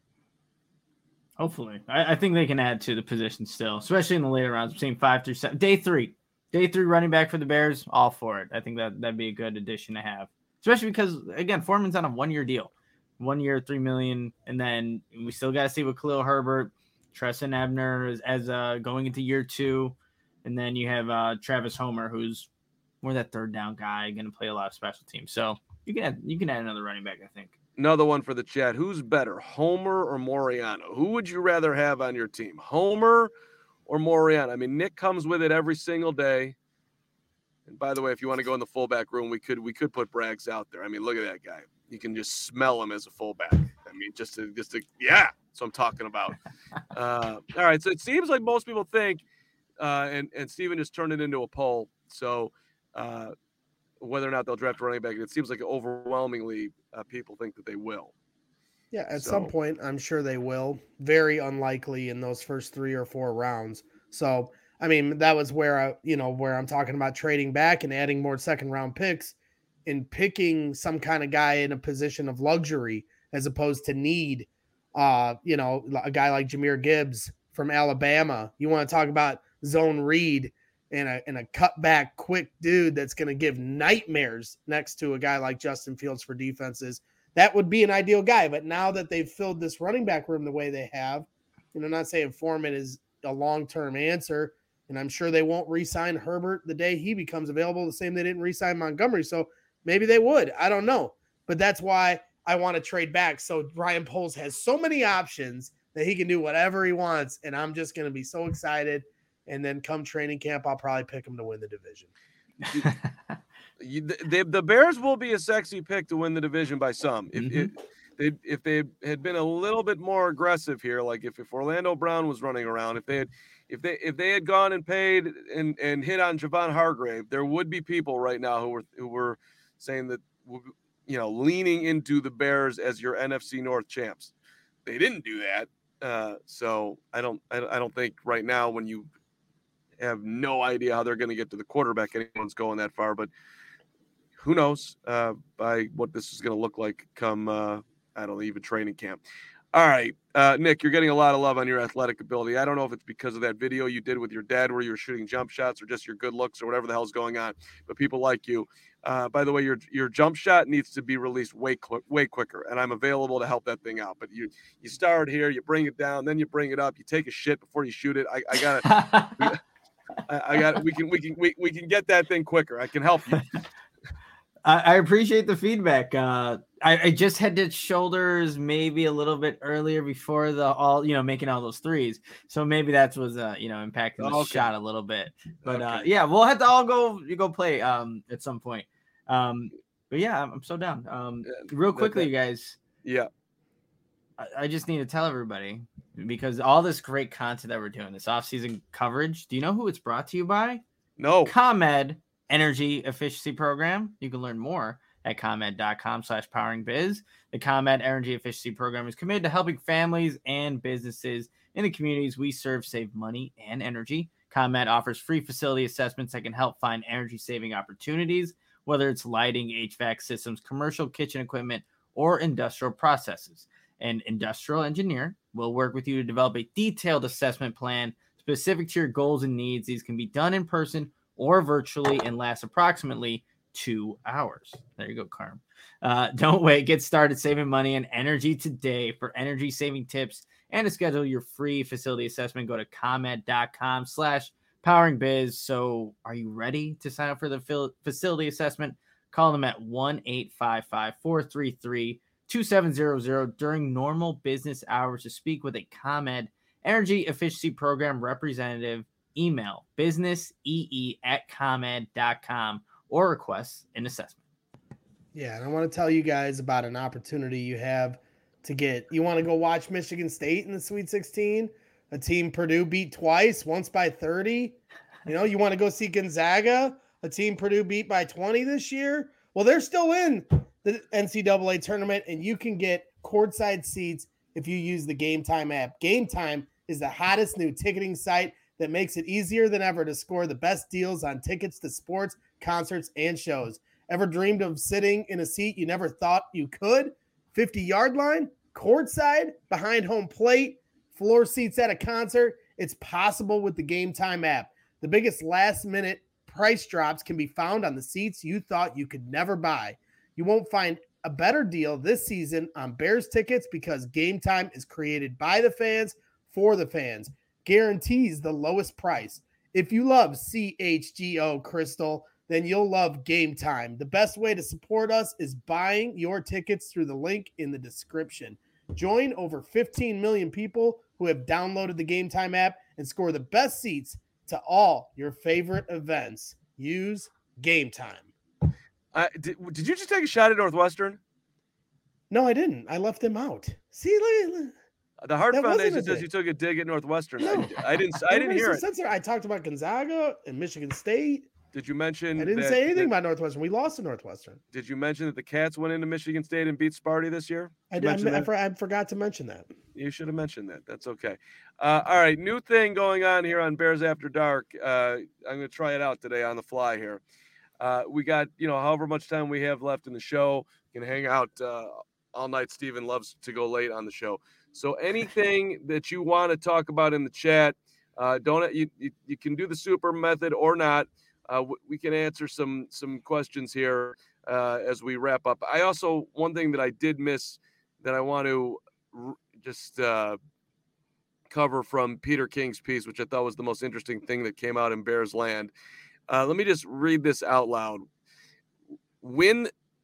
Hopefully, I, I think they can add to the position still, especially in the later rounds. Between five through seven, day three, day three running back for the Bears. All for it. I think that that'd be a good addition to have, especially because again, Foreman's on a one year deal, one year, three million, and then we still got to see what Khalil Herbert, Tresson Ebner as, as uh, going into year two. And then you have uh, Travis Homer, who's more that third down guy, going to play a lot of special teams. So you can add, you can add another running back, I think. Another one for the chat. Who's better, Homer or Moriano? Who would you rather have on your team, Homer or Moriano? I mean, Nick comes with it every single day. And by the way, if you want to go in the fullback room, we could we could put Braggs out there. I mean, look at that guy. You can just smell him as a fullback. I mean, just to, just to, yeah, that's what I'm talking about. uh, all right, so it seems like most people think. Uh, and, and Steven just turned it into a poll. So uh, whether or not they'll draft a running back, it seems like overwhelmingly uh, people think that they will. Yeah, at so. some point, I'm sure they will. Very unlikely in those first three or four rounds. So, I mean, that was where I, you know, where I'm talking about trading back and adding more second round picks and picking some kind of guy in a position of luxury as opposed to need. Uh, you know, a guy like Jahmyr Gibbs from Alabama. You want to talk about zone read and a and a cutback quick dude that's going to give nightmares next to a guy like Justin Fields for defenses. That would be an ideal guy. But now that they've filled this running back room the way they have, and I'm not saying Foreman is a long-term answer, and I'm sure they won't re-sign Herbert the day he becomes available, the same they didn't re-sign Montgomery. So maybe they would. I don't know. But that's why I want to trade back. So Ryan Poles has so many options that he can do whatever he wants, and I'm just going to be so excited. And then come training camp, I'll probably pick them to win the division. you, the, the Bears will be a sexy pick to win the division by some. If, mm-hmm. if they if they had been a little bit more aggressive here, like if, if Orlando Brown was running around, if they had if they if they had gone and paid and, and hit on Javon Hargrave, there would be people right now who were who were saying that, you know, leaning into the Bears as your N F C North champs. They didn't do that. Uh, so I don't I, I don't think right now, when you have no idea how they're going to get to the quarterback, anyone's going that far, but who knows uh, by what this is going to look like come, uh, I don't know, even training camp. All right, uh, Nick, you're getting a lot of love on your athletic ability. I don't know if it's because of that video you did with your dad where you were shooting jump shots or just your good looks or whatever the hell's going on, but people like you. Uh, by the way, your your jump shot needs to be released way cl- way quicker, and I'm available to help that thing out. But you you start here, you bring it down, then you bring it up, you take a shit before you shoot it. I, I got it. I, I got it. We can we can we, we can get that thing quicker. I can help you. I, I appreciate the feedback. Uh, I, I just had to shoulders maybe a little bit earlier before the all, you know, making all those threes. So maybe that was, uh, you know, impacting the okay. shot a little bit. But okay. uh, yeah, we'll have to all go you go play um, at some point. Um, but yeah, I'm, I'm so down. Um, real quickly, you guys. Yeah. I, I just need to tell everybody, because all this great content that we're doing, this off-season coverage. Do you know who it's brought to you by? No. ComEd Energy Efficiency Program. You can learn more at ComEd.com slash powering biz. The ComEd Energy Efficiency Program is committed to helping families and businesses in the communities we serve save money and energy. ComEd offers free facility assessments that can help find energy saving opportunities, whether it's lighting, H V A C systems, commercial kitchen equipment, or industrial processes. An industrial engineer will work with you to develop a detailed assessment plan specific to your goals and needs. These can be done in person or virtually and last approximately two hours. There you go, Carm. Uh, don't wait. Get started saving money and energy today. For energy saving tips and to schedule your free facility assessment, go to ComEd.com slash powering biz. So are you ready to sign up for the fil- facility assessment? Call them at one eight five five, four three three, two seven zero zero during normal business hours to speak with a ComEd Energy Efficiency Program representative. Email businessee at comed dot com or request an assessment. Yeah, and I want to tell you guys about an opportunity you have to get. You want to go watch Michigan State in the Sweet sixteen? A team Purdue beat twice, once by thirty. You know, you want to go see Gonzaga, a team Purdue beat by twenty this year? Well, they're still in the N C double A tournament, and you can get courtside seats if you use the Game Time app. Game Time is the hottest new ticketing site that makes it easier than ever to score the best deals on tickets to sports, concerts, and shows. Ever dreamed of sitting in a seat you never thought you could? fifty-yard line, courtside, behind home plate, floor seats at a concert. It's possible with the Game Time app. The biggest last-minute price drops can be found on the seats you thought you could never buy. You won't find a better deal this season on Bears tickets because Game Time is created by the fans for the fans. Guarantees the lowest price. If you love C H G O Crystal, then you'll love Game Time. The best way to support us is buying your tickets through the link in the description. Join over fifteen million people who have downloaded the Game Time app and score the best seats to all your favorite events. Use Game Time. Uh, did, did you just take a shot at Northwestern? No, I didn't. I left them out. See, look, look. The Hart That Foundation wasn't a says dig. you took a dig at Northwestern. No. I, I didn't. I didn't hear it. Censored. I talked about Gonzaga and Michigan State. Did you mention? I didn't that, say anything that, about Northwestern. We lost to Northwestern. Did you mention that the Cats went into Michigan State and beat Sparty this year? I, Did you I, mention I, that? for- I forgot to mention that. You should have mentioned that. That's okay. Uh, all right, new thing going on here on Bears After Dark. Uh, I'm going to try it out today on the fly here. Uh, we got, you know, however much time we have left in the show. You can hang out uh, all night. Steven loves to go late on the show. So anything that you want to talk about in the chat, uh, don't you, you you can do the super method or not. Uh, we can answer some some questions here uh, as we wrap up. I also, one thing that I did miss that I want to r- just uh, cover from Peter King's piece, which I thought was the most interesting thing that came out in Bears land. Uh, let me just read this out loud. Win.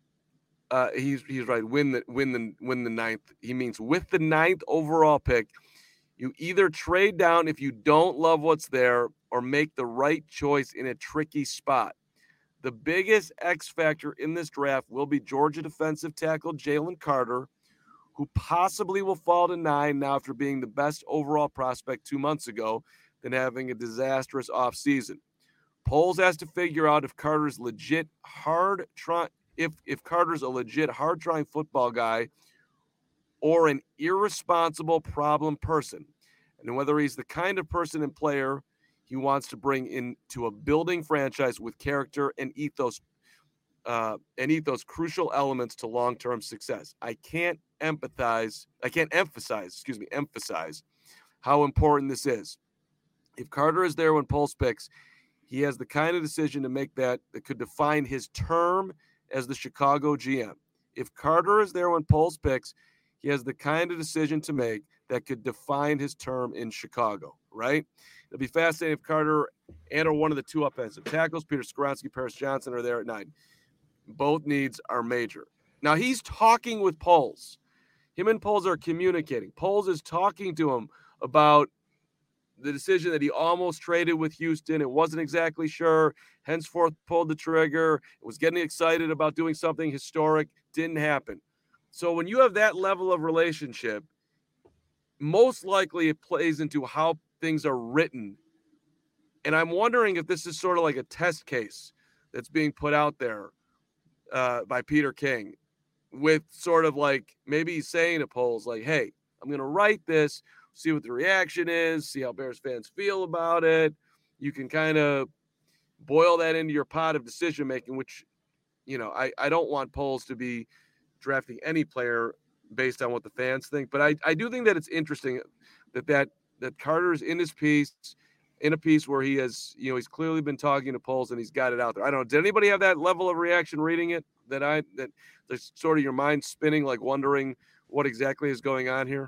Uh, he's he's right. Win the win the win the ninth. He means with the ninth overall pick, you either trade down if you don't love what's there, or make the right choice in a tricky spot. The biggest X factor in this draft will be Georgia defensive tackle Jalen Carter, who possibly will fall to nine now after being the best overall prospect two months ago, than having a disastrous offseason. Poles has to figure out if Carter's legit hard try if if Carter's a legit hard trying football guy or an irresponsible problem person, and whether he's the kind of person and player he wants to bring into a building franchise with character and ethos, uh, and ethos crucial elements to long-term success. I can't empathize. I can't emphasize. Excuse me. Emphasize how important this is. If Carter is there when Poles picks, he has the kind of decision to make that that could define his term as the Chicago G M. If Carter is there when Poles picks, he has the kind of decision to make that could define his term in Chicago, right? It'll be fascinating if Carter and or one of the two offensive tackles, Peter Skoronski, Paris Johnson, are there at nine. Both needs are major. Now, he's talking with Poles. Him and Poles are communicating. Poles is talking to him about the decision that he almost traded with Houston. It wasn't exactly sure. Henceforth, pulled the trigger. It was getting excited about doing something historic. Didn't happen. So when you have that level of relationship, most likely it plays into how things are written. And I'm wondering if this is sort of like a test case that's being put out there uh, by Peter King, with sort of like maybe he's saying to Poles, like, hey, I'm going to write this, see what the reaction is, see how Bears fans feel about it. You can kind of boil that into your pot of decision making, which, you know, I, I don't want Poles to be drafting any player based on what the fans think. But I, I do think that it's interesting that, that that Carter's in his piece, in a piece where he has, you know, he's clearly been talking to Poles and he's got it out there. I don't know. Did anybody have that level of reaction reading it, that I that there's sort of your mind spinning, like wondering what exactly is going on here?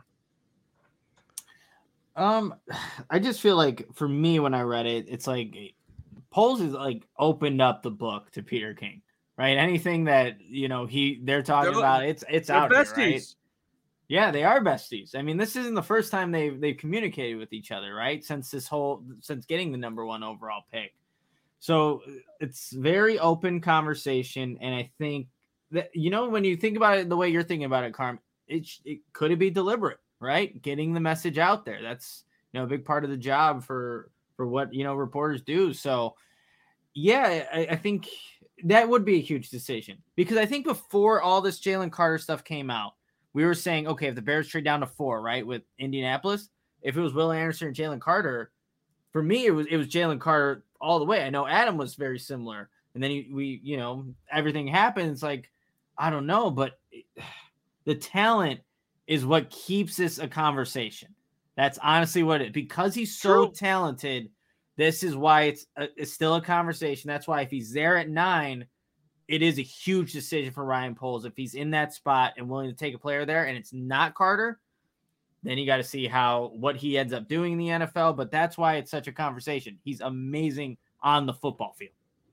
Um, I just feel like for me, when I read it, it's like Poles is like opened up the book to Peter King, right? Anything that, you know, he they're talking they're, about, it's it's out besties. there, right? Yeah, they are besties. I mean, this isn't the first time they've they've communicated with each other, right? Since this whole since getting the number one overall pick. So it's very open conversation, and I think that, you know, when you think about it the way you're thinking about it, Carm, it it could it be deliberate, right? Getting the message out there. That's, you know, a big part of the job for for what, you know, reporters do. So yeah, I, I think that would be a huge decision, because I think before all this Jalen Carter stuff came out, we were saying, okay, if the Bears trade down to four, right, with Indianapolis, if it was Will Anderson or Jalen Carter, for me, it was it was Jalen Carter all the way. I know Adam was very similar. And then he, we, you know, everything happens. Like, I don't know, but the talent is what keeps this a conversation. That's honestly what it, because he's so True. talented, this is why it's, a, it's still a conversation. That's why if he's there at nine, it is a huge decision for Ryan Poles. If he's in that spot and willing to take a player there and it's not Carter, then you got to see how, what he ends up doing in the N F L. But that's why it's such a conversation. He's amazing on the football field.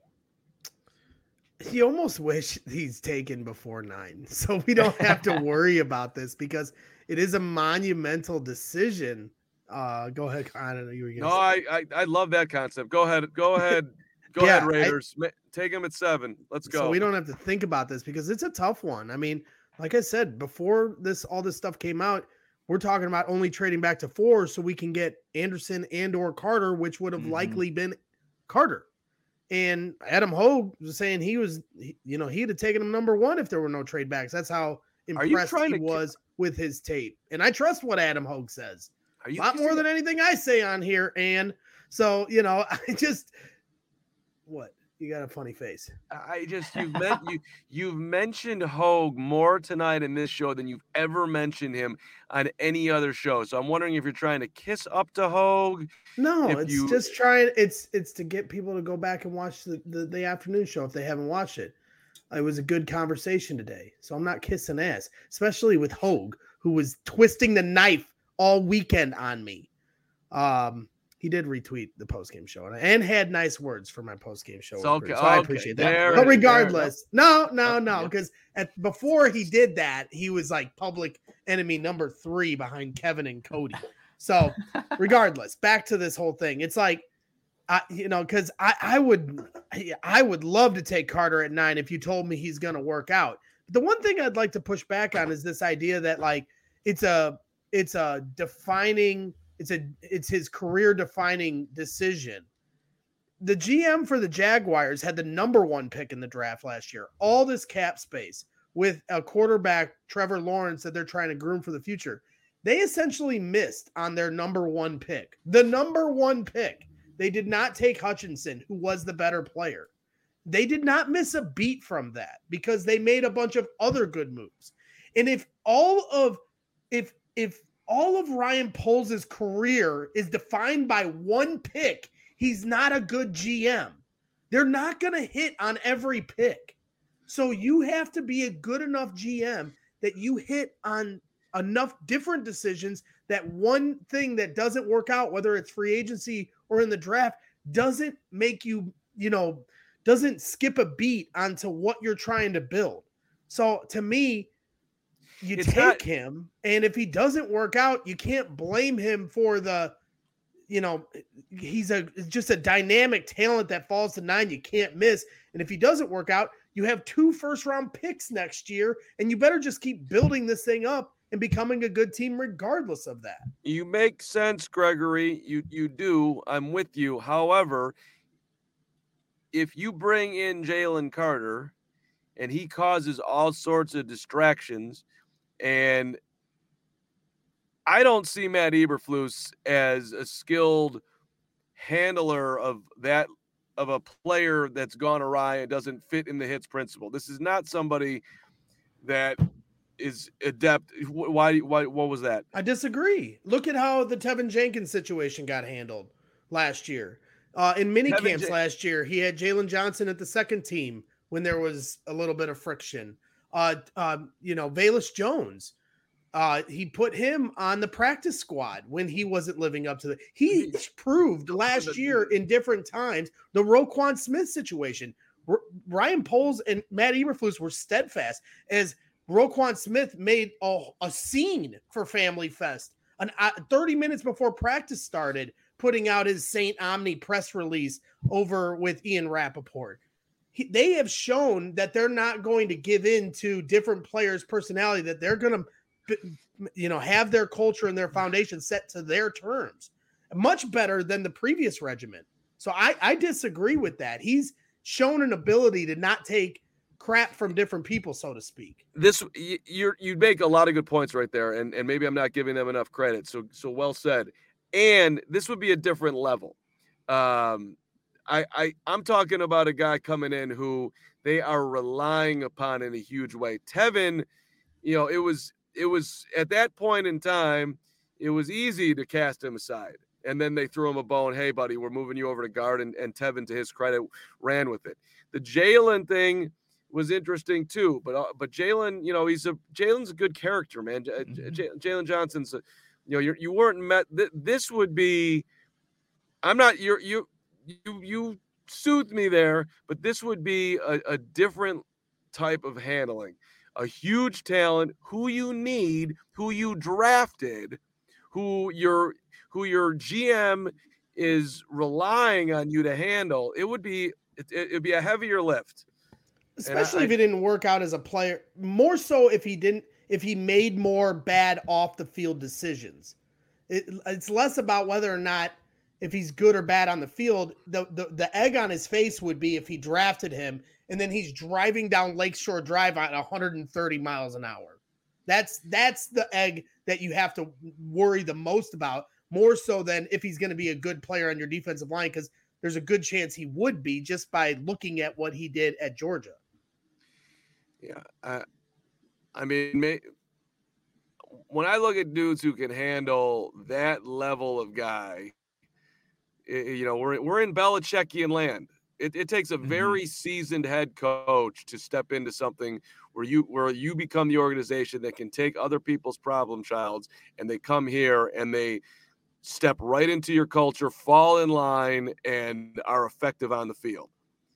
You almost wish he's taken before nine, so we don't have to worry about this, because it is a monumental decision. Uh, go ahead. I don't know. You were gonna no, say. I, I I love that concept. Go ahead. Go ahead. Go yeah, ahead, Raiders. I, Take him at seven. Let's go. So we don't have to think about this, because it's a tough one. I mean, like I said, before this, all this stuff came out, we're talking about only trading back to four so we can get Anderson and or Carter, which would have mm-hmm. likely been Carter. And Adam Hogue was saying he was, you know, he'd have taken him number one if there were no trade backs. That's how impressed he was with his tape. And I trust what Adam Hogue says. Are you a lot more than anything I say on here. And so, you know, I just, what? You got a funny face. I just, you've, met, you, you've mentioned Hogue more tonight in this show than you've ever mentioned him on any other show. So I'm wondering if you're trying to kiss up to Hogue. No, it's you... just trying. It's it's to get people to go back and watch the, the, the afternoon show if they haven't watched it. It was a good conversation today. So I'm not kissing ass, especially with Hogue, who was twisting the knife all weekend on me. Um, He did retweet the postgame show and, and had nice words for my postgame show. So, okay, so I okay. appreciate that. There, but regardless, there, no, no, no, because at before he did that, he was like public enemy number three behind Kevin and Cody. So regardless, back to this whole thing. It's like, I, you know, because I, I would, I would love to take Carter at nine if you told me he's going to work out. The one thing I'd like to push back on is this idea that like it's a it's a defining it's a it's his career defining decision. The G M for the Jaguars had the number one pick in the draft last year. All this cap space with a quarterback, Trevor Lawrence, that they're trying to groom for the future. They essentially missed on their number one pick. The number one pick. They did not take Hutchinson, who was the better player. They did not miss a beat from that because they made a bunch of other good moves. And if all of if if all of Ryan Poles' career is defined by one pick, he's not a good G M. They're not going to hit on every pick. So you have to be a good enough G M that you hit on enough different decisions that one thing that doesn't work out, whether it's free agency or in the draft, doesn't make you, you know, doesn't skip a beat onto what you're trying to build. So to me, you it's take not- him, and if he doesn't work out, you can't blame him for the, you know, he's a just a dynamic talent that falls to nine you can't miss. And if he doesn't work out, you have two first round picks next year, and you better just keep building this thing up and becoming a good team regardless of that. You make sense, Gregory. You you do. I'm with you. However, if you bring in Jalen Carter and he causes all sorts of distractions, and I don't see Matt Eberflus as a skilled handler of that of a player that's gone awry and doesn't fit in the hits principle. This is not somebody that is adept. Why, why, what was that? I disagree. Look at how the Tevin Jenkins situation got handled last year. Uh, in mini Tevin camps Jen- last year, he had Jalen Johnson at the second team when there was a little bit of friction. Uh, um, you know, Velus Jones, uh, he put him on the practice squad when he wasn't living up to the. He proved last year in different times the Roquan Smith situation. R- Ryan Poles and Matt Eberflus were steadfast as Roquan Smith made a, a scene for Family Fest an, uh, thirty minutes before practice started, putting out his Saint Omni press release over with Ian Rappaport. He, they have shown that they're not going to give in to different players' personality, that they're going to, you know, have their culture and their foundation set to their terms. Much better than the previous regiment. So I, I disagree with that. He's shown an ability to not take crap from different people, so to speak. This you you're, you make a lot of good points right there, and and maybe I'm not giving them enough credit. So so well said. And this would be a different level. Um, I I I'm talking about a guy coming in who they are relying upon in a huge way. Tevin, you know, it was it was at that point in time, it was easy to cast him aside. And then they threw him a bone. Hey, buddy, we're moving you over to guard. And, and Tevin, to his credit, ran with it. The Jalen thing was interesting too. But uh, but Jalen, you know, he's a Jalen's a good character, man. J- J- Jalen Johnson's, a, you know, you're, you weren't met. Th- this would be. I'm not. You're you you you soothed me there, but this would be a, a different type of handling. A huge talent, who you need, who you drafted, who you're. who your G M is relying on you to handle. It would be it, it'd be a heavier lift, especially I, if it didn't work out as a player. More so if he didn't, if he made more bad off the field decisions. It, it's less about whether or not if he's good or bad on the field. The, the the egg on his face would be if he drafted him and then he's driving down Lakeshore Drive at one hundred thirty miles an hour. That's that's the egg that you have to worry the most about. More so than if he's going to be a good player on your defensive line, because there's a good chance he would be just by looking at what he did at Georgia. Yeah. I, I mean, may, when I look at dudes who can handle that level of guy, it, you know, we're, we're in Belichickian land. It, it takes a very mm-hmm. seasoned head coach to step into something where you where you become the organization that can take other people's problem childs and they come here and they step right into your culture, fall in line, and are effective on the field.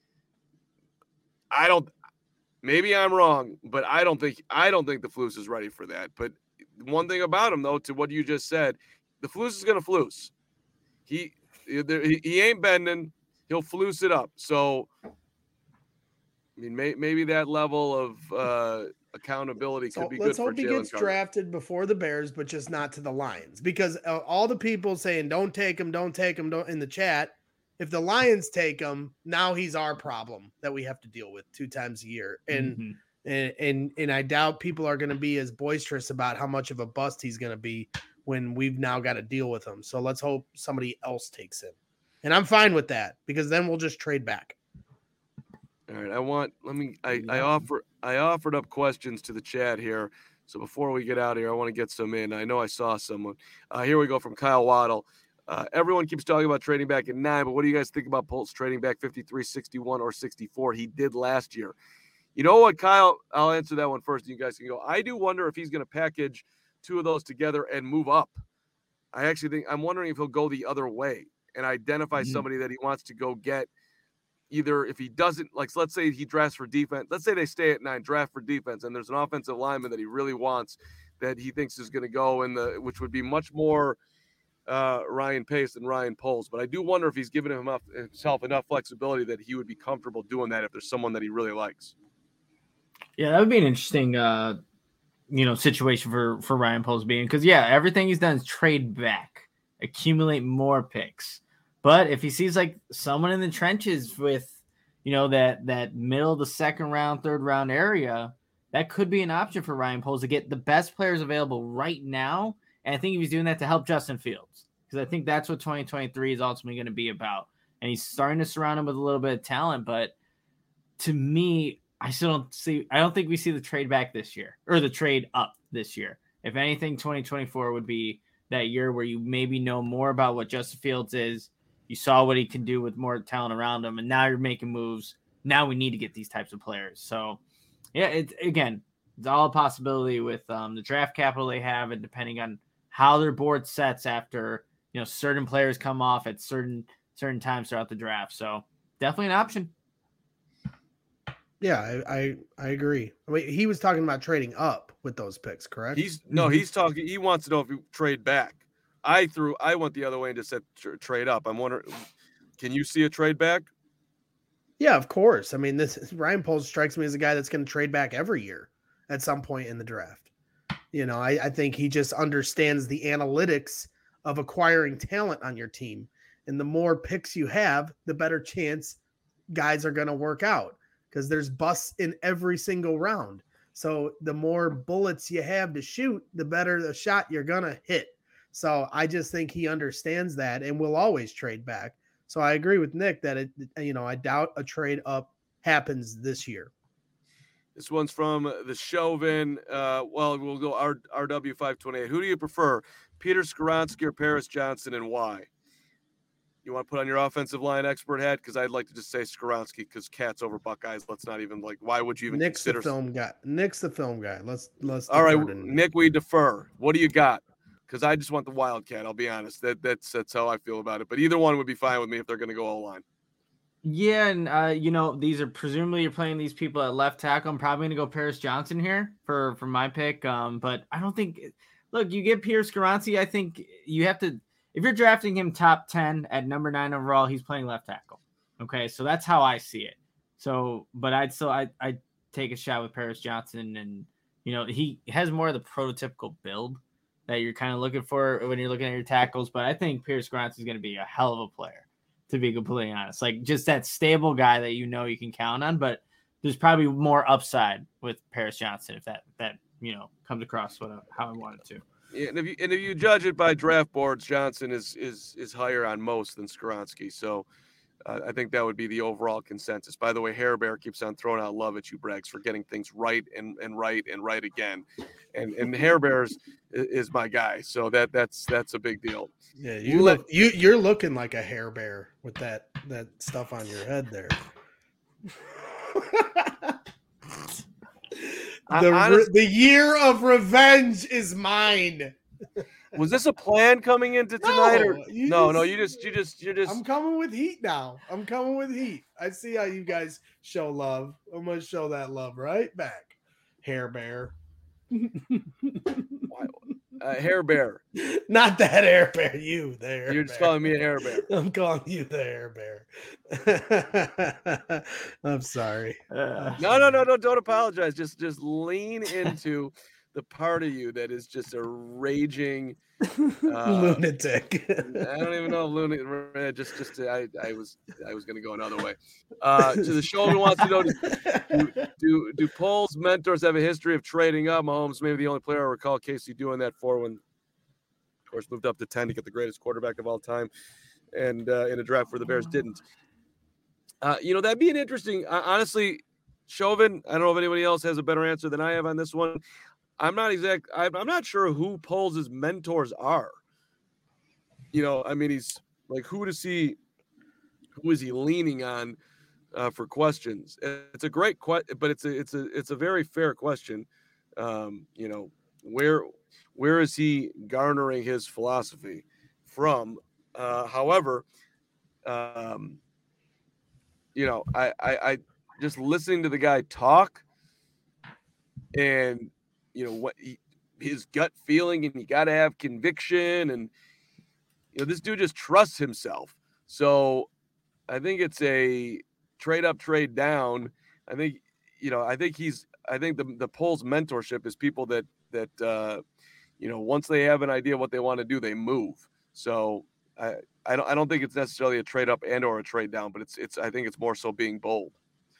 I don't. Maybe I'm wrong, but I don't think I don't think the Flus is ready for that. But one thing about him, though, to what you just said, the Flus is going to Flus. He he ain't bending. He'll Flus it up. So, I mean, may, maybe that level of uh, accountability so could be let's good for hope he Jalen gets Carter. drafted before the Bears, but just not to the Lions, because uh, all the people saying don't take him, don't take him, don't in the chat. If the Lions take him, now he's our problem that we have to deal with two times a year, and Mhm. and and and I doubt people are going to be as boisterous about how much of a bust he's going to be when we've now got to deal with him. So let's hope somebody else takes him, and I'm fine with that because then we'll just trade back. All right, I want let me I, I offer I offered up questions to the chat here. So before we get out of here, I want to get some in. I know I saw someone. Uh, here we go from Kyle Waddle. Uh, everyone keeps talking about trading back at nine, but what do you guys think about Pulse trading back fifty-three, sixty-one, or sixty-four? He did last year. You know what, Kyle? I'll answer that one first. And you guys can go. I do wonder if he's going to package two of those together and move up. I actually think I'm wondering if he'll go the other way and identify Mm-hmm. somebody that he wants to go get. Either if he doesn't, like, let's say he drafts for defense. Let's say they stay at nine, draft for defense, and there's an offensive lineman that he really wants that he thinks is going to go in the, which would be much more uh, Ryan Pace than Ryan Poles. But I do wonder if he's given him enough, himself enough flexibility that he would be comfortable doing that if there's someone that he really likes. Yeah, that would be an interesting, uh, you know, situation for for Ryan Poles being, because yeah, everything he's done is trade back, accumulate more picks. But if he sees like someone in the trenches with, you know, that that middle of the second round, third round area, that could be an option for Ryan Poles to get the best players available right now. And I think if he's doing that to help Justin Fields, because I think that's what twenty twenty-three is ultimately going to be about. And he's starting to surround him with a little bit of talent. But to me, I still don't see, I don't think we see the trade back this year or the trade up this year. If anything, twenty twenty-four would be that year where you maybe know more about what Justin Fields is. You saw what he can do with more talent around him, and now you're making moves. Now we need to get these types of players. So, yeah, it's again, it's all a possibility with um, the draft capital they have, and depending on how their board sets after, you know, certain players come off at certain certain times throughout the draft. So, definitely an option. Yeah, I, I I agree. I mean, he was talking about trading up with those picks, correct? He's no, he's talking. He wants to know if you trade back. I threw. I went the other way and just said tr- trade up. I'm wondering, can you see a trade back? Yeah, of course. I mean, this is, Ryan Poles strikes me as a guy that's going to trade back every year at some point in the draft. You know, I, I think he just understands the analytics of acquiring talent on your team, and the more picks you have, the better chance guys are going to work out because there's busts in every single round. So the more bullets you have to shoot, the better the shot you're going to hit. So I just think he understands that and will always trade back. So I agree with Nick that it, you know, I doubt a trade up happens this year. This one's from the Chauvin. Uh, well, we'll go R- RW five twenty-eight. Who do you prefer, Peter Skoronski or Paris Johnson, and why? You want to put on your offensive line expert hat? Because I'd like to just say Skoronski because Cats over Buckeyes. Let's not even like. Why would you even Nick's consider? the film guy. Nick's the film guy. Let's let's. All right, defer to Nick, we defer. What do you got? Because I just want the Wildcat. I'll be honest. That that's that's how I feel about it. But either one would be fine with me if they're going to go all line. Yeah, and uh, you know, these are presumably you're playing these people at left tackle. I'm probably going to go Paris Johnson here for for my pick. Um, but I don't think. Look, you get Pierre Skoronski. I think you have to. If you're drafting him top ten at number nine overall, he's playing left tackle. Okay, so that's how I see it. So, but I'd still I I take a shot with Paris Johnson, and you know he has more of the prototypical build that you're kind of looking for when you're looking at your tackles. But I think Pierce Skoronski is going to be a hell of a player, to be completely honest. Like just that stable guy that you know you can count on. But there's probably more upside with Paris Johnson if that that you know comes across what how I wanted to. Yeah, and if you and if you judge it by draft boards, Johnson is is is higher on most than Skoronski. So uh, I think that would be the overall consensus. By the way, Hair Bear keeps on throwing out love at you, Braggs, for getting things right and, and right and right again. And and Hair Bears is, is my guy. So that that's that's a big deal. Yeah, you look you you're looking like a hair bear with that that stuff on your head there. the honest, the year of revenge is mine. Was this a plan coming into tonight? No, or no, just, no, you just you just you just I'm coming with heat now. I'm coming with heat. I see how you guys show love. I'm gonna show that love right back. Hair Bear. Uh, hair bear. Not that hair bear. You there. You're just calling me a hair bear. I'm calling you the hair bear. I'm sorry. Uh, No, no, no, no. Don't apologize. Just, just lean into the part of you that is just a raging uh, lunatic. I don't even know lunatic. Just, just I, I was, I was going to go another way. Uh, to the show, wants to know: do, do, do Poles mentors have a history of trading up? Mahomes, maybe the only player I recall Casey doing that for when, of course, moved up to ten to get the greatest quarterback of all time, and uh, in a draft where the Bears didn't. Uh, you know, that'd be an interesting. Uh, honestly, Chauvin. I don't know if anybody else has a better answer than I have on this one. I'm not exact. I'm, I'm not sure who Poles' mentors are. You know, I mean, he's like, who does he, who is he leaning on uh, for questions? It's a great question, but it's a, it's a, it's a very fair question. Um, you know, where, where is he garnering his philosophy from? Uh, however, um, you know, I, I, I just listening to the guy talk and, you know, what he, his gut feeling, and you got to have conviction, and you know, this dude just trusts himself. So I think it's a trade up, trade down. I think, you know, I think he's, I think the, the Poles mentorship is people that, that, uh, you know, once they have an idea what they want to do, they move. So I, I don't, I don't think it's necessarily a trade up and or a trade down, but it's, it's, I think it's more so being bold.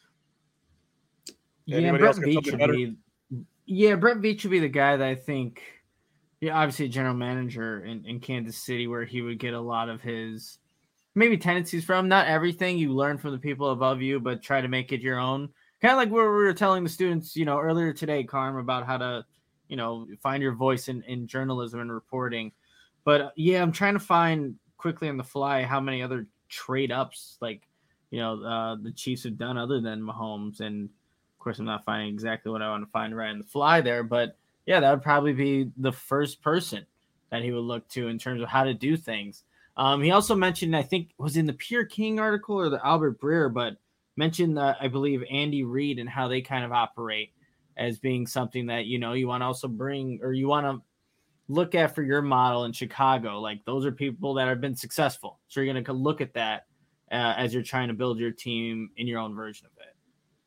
yeah, Anybody Brett else got Veach something should better? be. Yeah, Brett Veach would be the guy that I think. Yeah, obviously a general manager in, in Kansas City, where he would get a lot of his maybe tendencies from. Not everything you learn from the people above you, but try to make it your own. Kind of like where we were telling the students, you know, earlier today, Carm, about how to, you know, find your voice in, in journalism and reporting. But uh, yeah, I'm trying to find quickly on the fly how many other trade ups like, you know, uh, the Chiefs have done other than Mahomes. And of course, I'm not finding exactly what I want to find right on the fly there, but yeah, that would probably be the first person that he would look to in terms of how to do things. Um, he also mentioned, I think, was in the Pierre King article or the Albert Breer, but mentioned, uh, I believe, Andy Reid and how they kind of operate as being something that, you know, you want to also bring, or you want to look at for your model in Chicago. Like, those are people that have been successful. So you're going to look at that uh, as you're trying to build your team in your own version of it.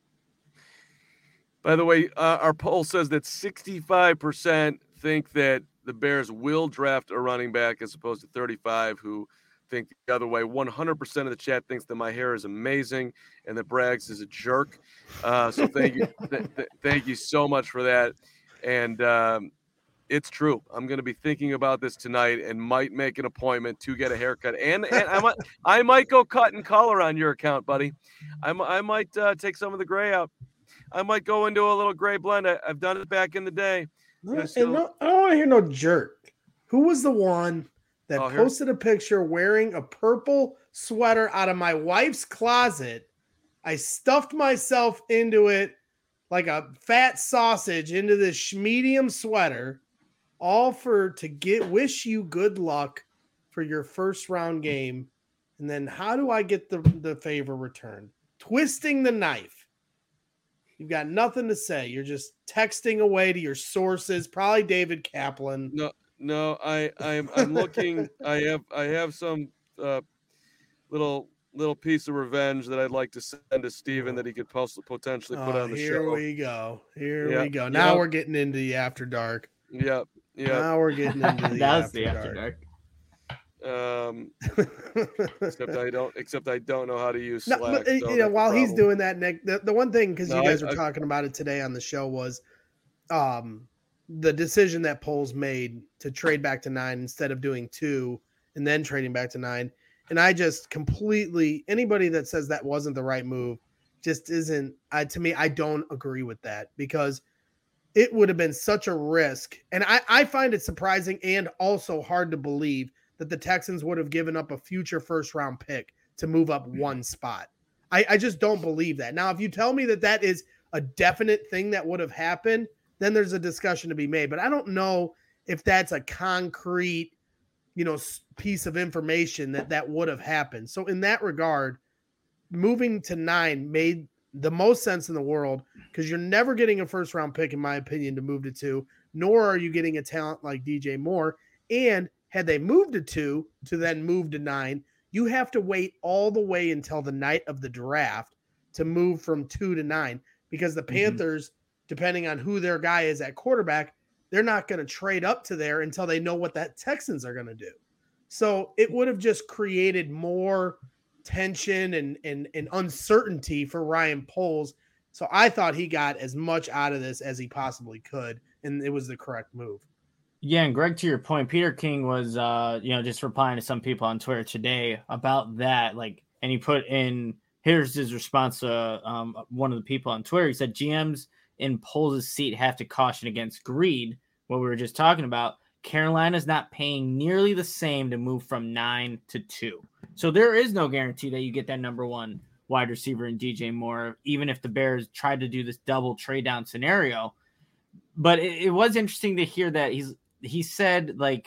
By the way, uh, our poll says that sixty-five percent think that the Bears will draft a running back as opposed to thirty-five who think the other way. one hundred percent of the chat thinks that my hair is amazing and that Braggs is a jerk. Uh, so thank you. Th- th- thank you so much for that. And um, it's true. I'm going to be thinking about this tonight and might make an appointment to get a haircut. And, and I might I might go cut and color on your account, buddy. I, I might uh, take some of the gray out. I might go into a little gray blend. I, I've done it back in the day. No, and no, I don't want to hear no jerk. Who was the one that Oh, here- posted a picture wearing a purple sweater out of my wife's closet? I stuffed myself into it like a fat sausage into this medium sweater, all for to get wish you good luck for your first round game. And then how do I get the, the favor returned? Twisting the knife. You've got nothing to say. You're just texting away to your sources, probably David Kaplan. No, no, I, I'm, I'm looking. I have, I have some uh, little, little piece of revenge that I'd like to send to Steven that he could post, potentially put Oh, on the here show. we go. Here Yeah. we go. Now Yep. we're getting into the after dark. Yep, yep. Now we're getting into the That was after the after dark. dark. Um, except I don't, except I don't know how to use No, Slack. but, uh, so you know, that's a while he's problem. doing that, Nick, the, the one thing, because No, you guys I- were I- talking about it today on the show, was um, the decision that Poles made to trade back to nine instead of doing two and then trading back to nine. And I just completely, anybody that says that wasn't the right move just isn't, I, to me, I don't agree with that, because it would have been such a risk. And I, I find it surprising and also hard to believe that the Texans would have given up a future first round pick to move up one spot. I, I just don't believe that. Now, if you tell me that that is a definite thing that would have happened, then there's a discussion to be made. But I don't know if that's a concrete, you know, piece of information that that would have happened. So in that regard, moving to nine made the most sense in the world because you're never getting a first round pick, in my opinion, to move to two, nor are you getting a talent like D J Moore. And had they moved to two to then move to nine, you have to wait all the way until the night of the draft to move from two to nine because the Panthers, mm-hmm. depending on who their guy is at quarterback, they're not going to trade up to there until they know what that Texans are going to do. So it would have just created more tension and, and, and uncertainty for Ryan Poles. So I thought he got as much out of this as he possibly could, and it was the correct move. Yeah, and Greg, to your point, Peter King was, uh, you know, just replying to some people on Twitter today about that. Like, and he put in, here's his response to um, one of the people on Twitter. He said, G Ms in Poles' seat have to caution against greed, what we were just talking about. Carolina's not paying nearly the same to move from nine to two. So there is no guarantee that you get that number one wide receiver in D J Moore, even if the Bears tried to do this double trade down scenario. But it, it was interesting to hear that he's he said like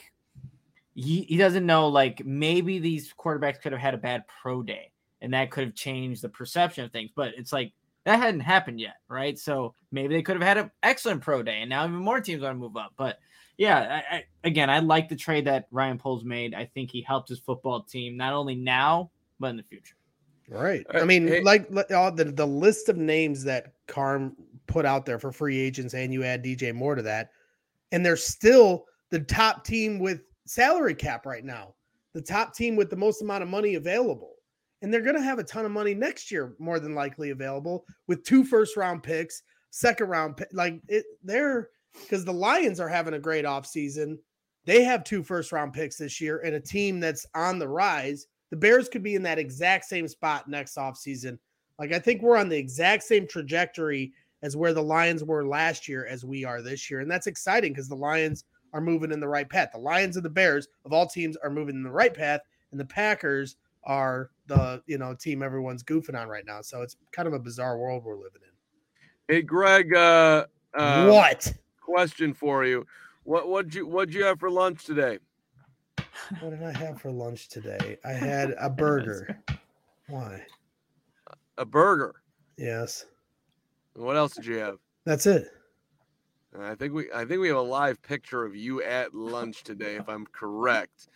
he, he doesn't know, like maybe these quarterbacks could have had a bad pro day and that could have changed the perception of things. But it's like that hadn't happened yet, right? So maybe they could have had an excellent pro day and now even more teams want to move up. But yeah, I, I, again, I like the trade that Ryan Poles made. I think he helped his football team not only now, but in the future. Right. I mean, hey, like all the, the list of names that Carm put out there for free agents, and you add D J Moore to that, and they're still the top team with salary cap right now, the top team with the most amount of money available. And they're going to have a ton of money next year, more than likely available, with two first round picks, second round pick. Like it, they're because the Lions are having a great offseason. They have two first round picks this year and a team that's on the rise. The Bears could be in that exact same spot next offseason. Like, I think we're on the exact same trajectory as where the Lions were last year as we are this year. And that's exciting because the Lions are moving in the right path. The Lions and the Bears of all teams are moving in the right path, and the Packers are the, you know, team everyone's goofing on right now. So it's kind of a bizarre world we're living in. Hey, Greg, uh, uh what? Question for you. What what'd you what'd you have for lunch today? What did I have for lunch today? I had a burger. Why? A burger. Yes. What else did you have? That's it. I think we I think we have a live picture of you at lunch today, if I'm correct.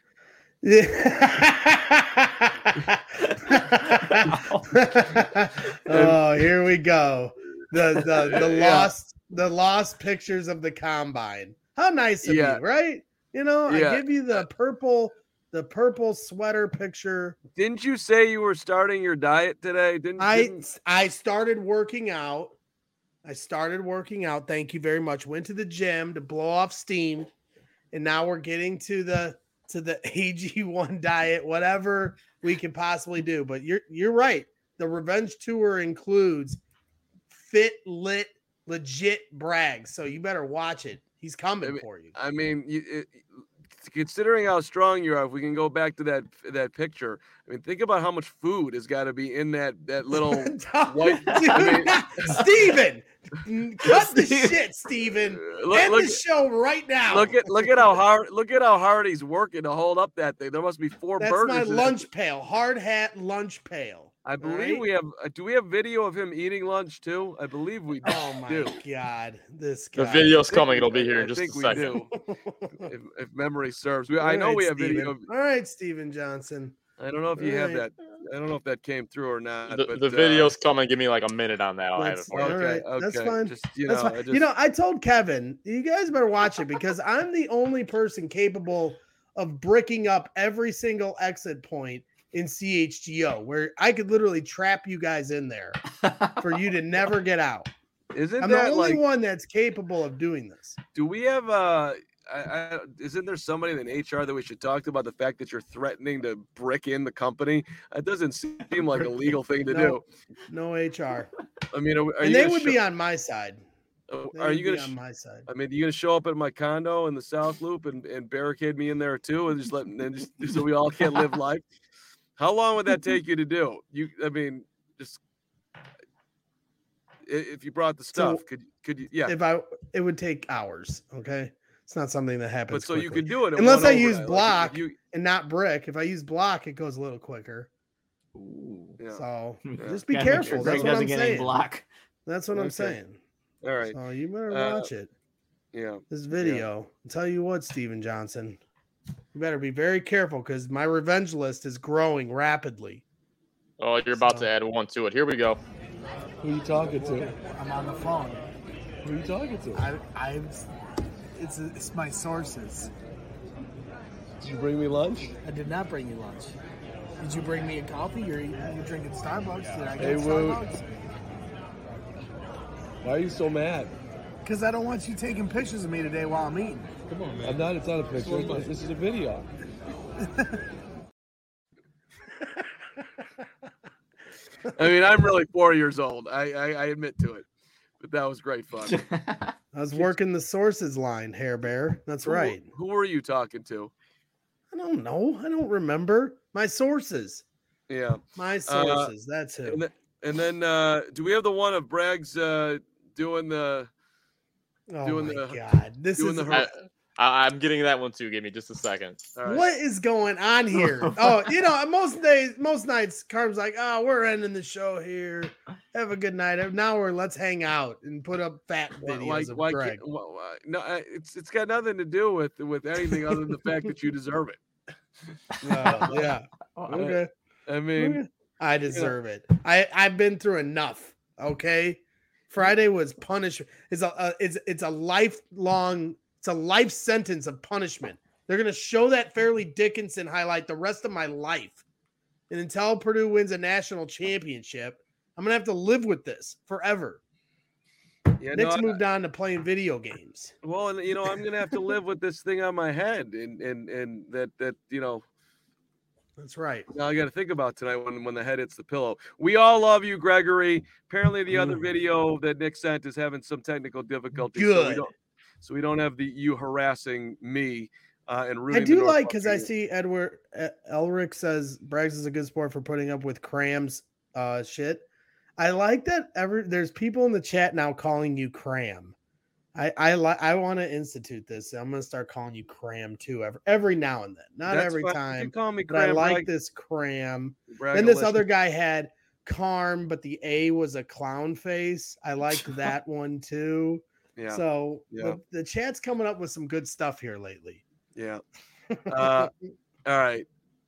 Oh, here we go. The the the yeah. lost the lost pictures of the combine. How nice of yeah. you, right? You know, yeah. I give you the purple the purple sweater picture. Didn't you say you were starting your diet today? Didn't I didn't... I started working out. I started working out. Thank you very much. Went to the gym to blow off steam. And now we're getting to the to the A G one diet, whatever we can possibly do. But you're you're right. The revenge tour includes fit, lit, legit Braggs. So you better watch it. He's coming I mean, for you. I mean, you, it, considering how strong you are, if we can go back to that that picture, I mean, think about how much food has got to be in that that little white. Dude, I mean, Steven, cut the shit, Steven. Look, End look, the show right now. Look at look at how hard look at how hard he's working to hold up that thing. There must be four That's burgers. That's my in lunch it. pail, hard hat lunch pail. I believe right? we have. Uh, do we have video of him eating lunch too? I believe we do. Oh my god, this guy. The video's coming. It'll be here in just I think a we second. do. if, if memory serves, we, I know right, we have Steven. video. Of, All right, Steven Johnson. I don't know if you all have right. that. I don't know if that came through or not. The, but, the video's uh, coming. Give me like a minute on that. I'll have it for okay, you. All right, okay. that's fine. Just, you that's know, fine. I just, You know, I told Kevin, you guys better watch it because I'm the only person capable of bricking up every single exit point in C H G O, where I could literally trap you guys in there for you to never get out. Isn't I'm that the only like, one that's capable of doing this. Do we have uh I, I, isn't there somebody in H R that we should talk to about the fact that you're threatening to brick in the company? That doesn't seem like a legal thing to no, do. No H R. I mean, are, are and you they gonna would show, be on my side. They are you going to on my side? I mean, are you going to show up at my condo in the South Loop and, and barricade me in there too, and just let and just so we all can't live life? How long would that take you to do? You, I mean, just if you brought the stuff, so could could you? Yeah, if I, it would take hours. Okay, it's not something that happens. But so quickly. you could do it unless I overnight. use Like, block you, and not brick. If I use block, it goes a little quicker. Ooh. Yeah, Yeah. So Yeah. just be Gotta make careful. sure Greg That's what doesn't I'm get any saying. block. That's what I'm Okay. saying. All right. So you better Uh, watch it. Yeah. This video. I'll tell you what, Steven Johnson. You better be very careful because my revenge list is growing rapidly. Oh, you're about So- to add one to it. Here we go. Who are you talking to? I'm on the phone. Who are you talking to? I, I, it's, it's my sources. Did you bring me lunch? I did not bring you lunch. Did you bring me a coffee? You're, you're drinking Starbucks. Did I Hey, get Woot. Starbucks? Why are you so mad? Because I don't want you taking pictures of me today while I'm eating. Come on, man. I'm not. It's not a picture. It's- This is a video. I mean, I'm really four years old. I, I, I admit to it, but that was great fun. I was working the sources line, Hair Bear. That's Who- right. Who were you talking to? I don't know. I don't remember. My sources. Yeah. My sources. That's who. And, th- and then, uh, do we have the one of Bragg's uh, doing the oh doing my the- God. This doing is the I, her- I, I'm getting that one too. Give me just a second. all right. what is going on here? Oh, you know, most days, most nights, Carm's like, oh, we're ending the show here. Have a good night. Now we're let's hang out and put up fat Why, videos why, of why Greg. can't, why, why, no, I- it's it's got nothing to do with with anything other than the fact that you deserve it. Oh, yeah. Okay. I mean, Okay. I deserve it. I I've been through enough. Okay. Friday was punishment. It's a uh, it's it's a lifelong. It's a life sentence of punishment. They're gonna show that Fairleigh Dickinson highlight the rest of my life, and until Purdue wins a national championship, I'm gonna have to live with this forever. yeah, Nick's no, I- moved on to playing video games. well, and you know, I'm gonna have to live with this thing on my head, and and and that that you know. That's right. Now I got to think about tonight when, when the head hits the pillow. We all love you, Gregory. Apparently, the other Mm. video that Nick sent is having some technical difficulties. So we Good. don't, so we don't have the you harassing me uh, and I rooting. the do North like because I Buffalo. see Edward uh, Elric says Braggs is a good sport for putting up with Cram's uh, shit. I like that. Ever there's people in the chat now calling you Cram. I I like. I want to institute this. I'm gonna start calling you Cram too. Every every now and then, not That's every fine. You time. can call me But I Cram. like Brag- this Cram. Bragalicious. Then this other guy had Carm, but the A was a clown face. I liked that one too. Yeah, So yeah. The, the chat's coming up with some good stuff here lately. yeah. Uh, all right.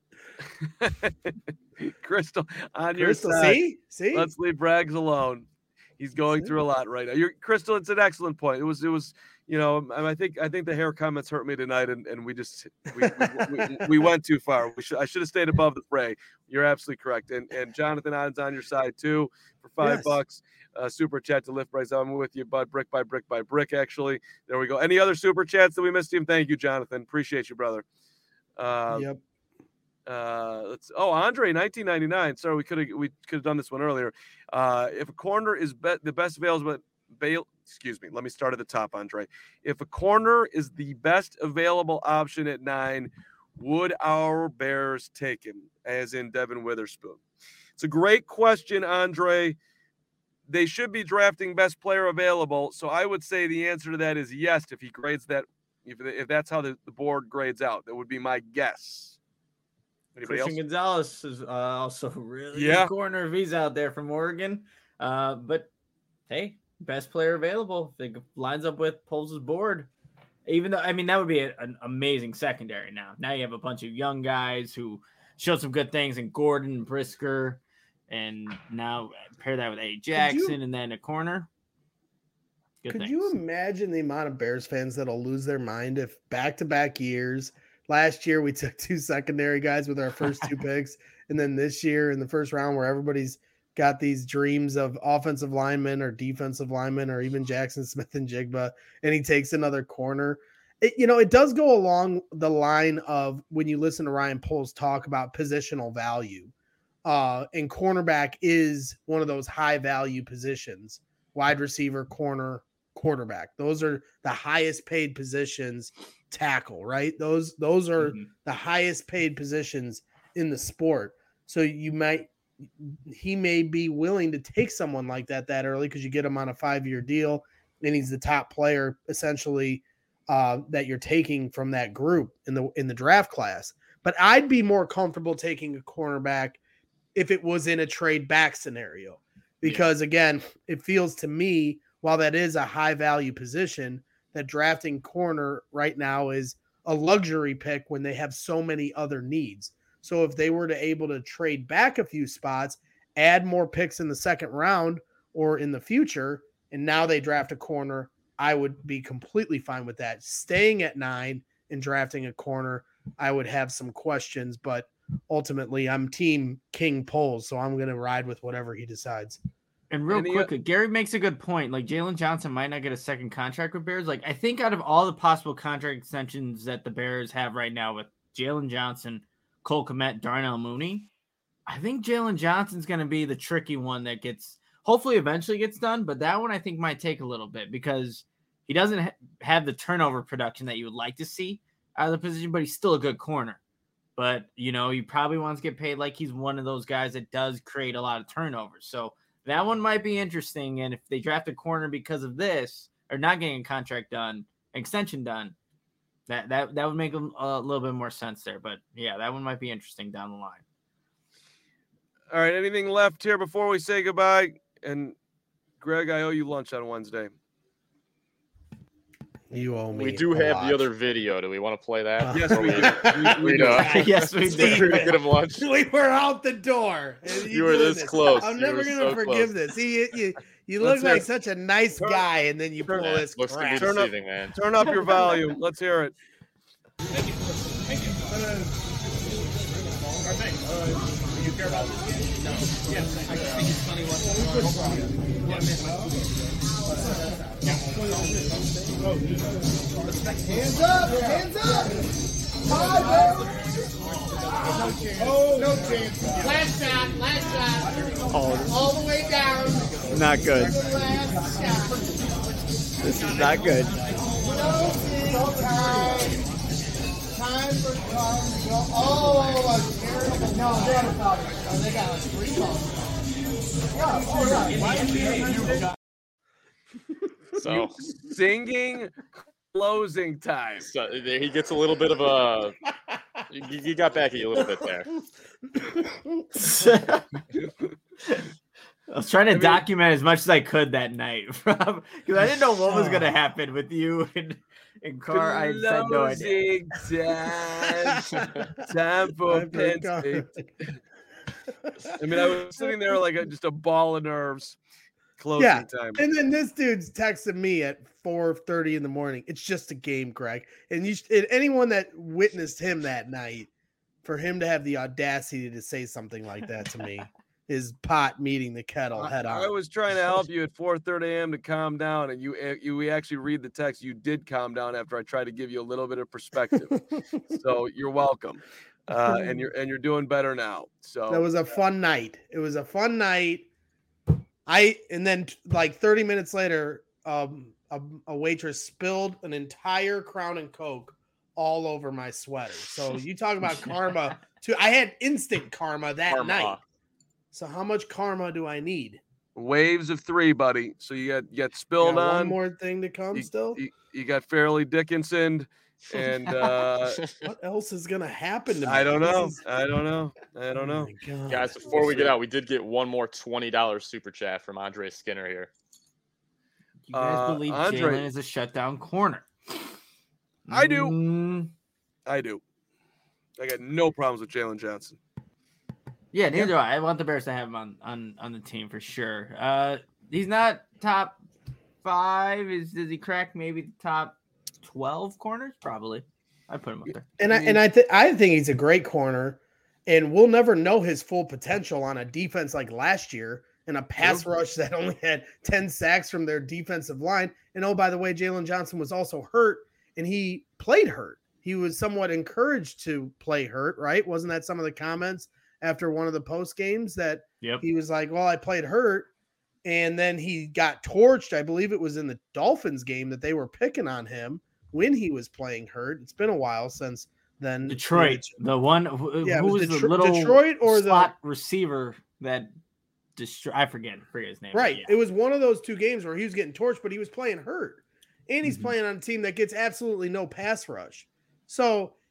Crystal, on your Crystal, side. see, see, Let's leave Braggs alone. He's going See? through a lot right now. You're Crystal. It's an excellent point. It was. It was. You know. I I think. I think the hair comments hurt me tonight, and, and we just we, we, we, we went too far. We should. I should have stayed above the fray. You're absolutely correct. And and Jonathan On's on your side too for five Yes. bucks. Uh, super chat to lift Bryce. I'm with you, bud. Brick by brick by brick. Actually, there we go. Any other super chats that we missed, him? Thank you, Jonathan. Appreciate you, brother. Uh, yep. uh let's oh Andre nineteen ninety-nine. Sorry, we could have we could have done this one earlier. Uh if a corner is be- the best available bail excuse me let me start at the top, Andre. If a corner is the best available option at nine, would our Bears take him, as in Devin Witherspoon? It's a great question, Andre. They should be drafting best player available, so I would say the answer to that is yes. If he grades that, if, if that's how the, the board grades out, that would be my guess. Anybody Christian else? Gonzalez is uh, also really Yeah. good corner if he's out there from Oregon. Uh, but hey, best player available. If it lines up with Poles' board. Even though, I mean, that would be a, an amazing secondary now. Now you have a bunch of young guys who showed some good things in Gordon and Brisker. And now pair that with A. Jackson and then a corner. Good Could things. you imagine the amount of Bears fans that'll lose their mind if back-to-back years? Last year we took two secondary guys with our first two picks, and then this year in the first round, where everybody's got these dreams of offensive linemen or defensive linemen or even Jackson Smith and Jigba, and he takes another corner. It, you know, it does go along the line of when you listen to Ryan Poles talk about positional value. Uh, and cornerback is one of those high value positions. Wide receiver, corner, quarterback. Those are the highest paid positions. Tackle, right? Those those are Mhm. the highest paid positions in the sport. So you might he may be willing to take someone like that that early because you get him on a five-year deal and he's the top player essentially uh, that you're taking from that group in the in the draft class. But I'd be more comfortable taking a cornerback if it was in a trade back scenario. Because, yeah. again, it feels to me, while that is a high-value position, that drafting corner right now is a luxury pick when they have so many other needs. So if they were to able to trade back a few spots, add more picks in the second round or in the future, and now they draft a corner, I would be completely fine with that. Staying at nine and drafting a corner, I would have some questions, but ultimately I'm team King Poles, so I'm going to ride with whatever he decides. And real Any, quickly, Gary makes a good point. Like, Jalen Johnson might not get a second contract with Bears. Like, I think out of all the possible contract extensions that the Bears have right now with Jalen Johnson, Cole Kmet, Darnell Mooney, I think Jalen Johnson's going to be the tricky one that gets, hopefully eventually gets done, but that one I think might take a little bit because he doesn't ha- have the turnover production that you would like to see out of the position, but he's still a good corner. But, you know, he probably wants to get paid like he's one of those guys that does create a lot of turnovers. So that one might be interesting. And if they draft a corner because of this, or not getting a contract done, extension done, that that, that would make a, a little bit more sense there. But, yeah, that one might be interesting down the line. All right, anything left here before we say goodbye? And, Greg, I owe you lunch on Wednesday. You owe me. We do have lot. the other video. Do we want to play that? Yes, we do. We, we do. Yes, we do. Get him lunch. We were out the door. You, you were this, this close. I'm you never going to so forgive close. this. You, you, you look like it. such a nice turn, guy, and then you pull turn, this looks crap. Turn up, man. Turn up your volume. Let's hear it. Thank you. Thank you. Our thing. Uh, do you care about this? No. Yeah. I just think it's funny Hands up! Hands up! Hi, oh, no chance. Last shot, last shot. Oh. All the way down. Not good. Last shot. This is not good. No time. Time for time to go. Oh, a terrible. No, they got a foul. Oh, they got like three fouls. Yeah, all right. Why did you So singing closing time. So he gets a little bit of a. You, you got back at you a little bit there. I was trying to I mean, document as much as I could that night, because I didn't know what was going to happen with you and, and Carr. I had no idea. Time, time for Penn State. I mean, I was sitting there like a, just a ball of nerves. Closing yeah. time. And then this dude's texting me at four thirty in the morning. It's just a game, Greg. And you, and anyone that witnessed him that night, for him to have the audacity to say something like that to me is pot meeting the kettle head on. I was trying to help you at four thirty a.m. to calm down, and you you we actually read the text. You did calm down after I tried to give you a little bit of perspective. So you're welcome. Uh, and you're and you're doing better now. So that was a fun night. It was a fun night. I and then like thirty minutes later, um, a, a waitress spilled an entire Crown and Coke all over my sweater. So you talk about karma too. I had instant karma that karma. night. So how much karma do I need? Waves of three, buddy. So you got you got spilled got on. One more thing to come you, still. You, you got Fairleigh Dickinson. And uh, what else is gonna happen to me? I don't know. Is... I don't know. I don't know. Oh guys, before we get out, we did get one more twenty dollars super chat from Andre Skinner here. You guys uh, believe Andre... Jalen is a shutdown corner? I do. Mm. I do. I got no problems with Jalen Johnson. Yeah, neither yeah. do I. I want the Bears to have him on, on, on the team for sure. Uh, he's not top five. Is does he crack maybe the top twelve corners? Probably. I put him up there. And I and I think I think he's a great corner, and we'll never know his full potential on a defense like last year in a pass True. rush that only had ten sacks from their defensive line. And oh, by the way, Jalen Johnson was also hurt, and he played hurt. He was somewhat encouraged to play hurt, right? Wasn't that some of the comments after one of the post games that yep. he was like, well, I played hurt. And then he got torched. I believe it was in the Dolphins game that they were picking on him when he was playing hurt. It's been a while since then. Detroit, the one who, yeah, who was, was the Detro- little Detroit or slot the receiver that destroy. I forget, forget his name. Right. Yeah. It was one of those two games where he was getting torched, but he was playing hurt. And he's Mhm. playing on a team that gets absolutely no pass rush. So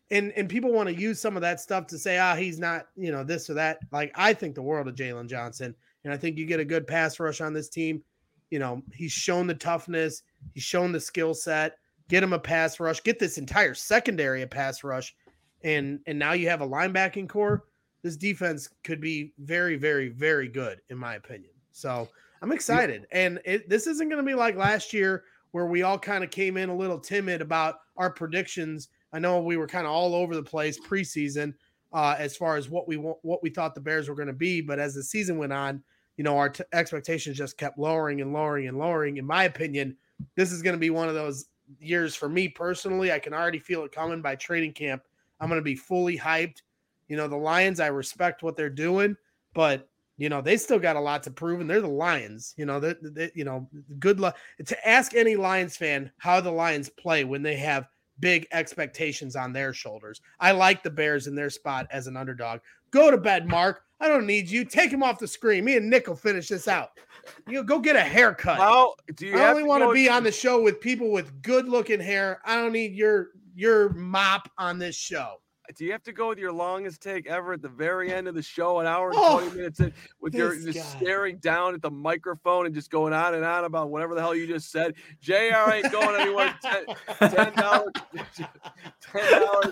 and and people want to use some of that stuff to say, ah, he's not, you know, this or that. Like, I think the world of Jalen Johnson, and I think you get a good pass rush on this team. You know, he's shown the toughness, he's shown the skill set. Get him a pass rush, get this entire secondary a pass rush, and and now you have a linebacking core. This defense could be very, very, very good, in my opinion. So I'm excited. And it, this isn't going to be like last year where we all kind of came in a little timid about our predictions. I know we were kind of all over the place preseason uh, as far as what we what we thought the Bears were going to be. But as the season went on, you know, our t- expectations just kept lowering and lowering and lowering. In my opinion, this is going to be one of those years for me personally. I can already feel it coming by training camp. I'm going to be fully hyped. You know, the Lions, I respect what they're doing, but you know, they still got a lot to prove, and they're the Lions. You know, they, they, you know, good luck to ask any Lions fan how the Lions play when they have big expectations on their shoulders. I like the Bears in their spot as an underdog. Go to bed, Mark. I don't need you. Take him off the screen. Me and Nick will finish this out. You go get a haircut. How do you I only want to go- be on the show with people with good-looking hair. I don't need your your mop on this show. Do you have to go with your longest take ever at the very end of the show, an hour and Oh, twenty minutes in, with your this just guy. staring down at the microphone and just going on and on about whatever the hell you just said? J R ain't going anywhere. Ten dollars, ten dollars.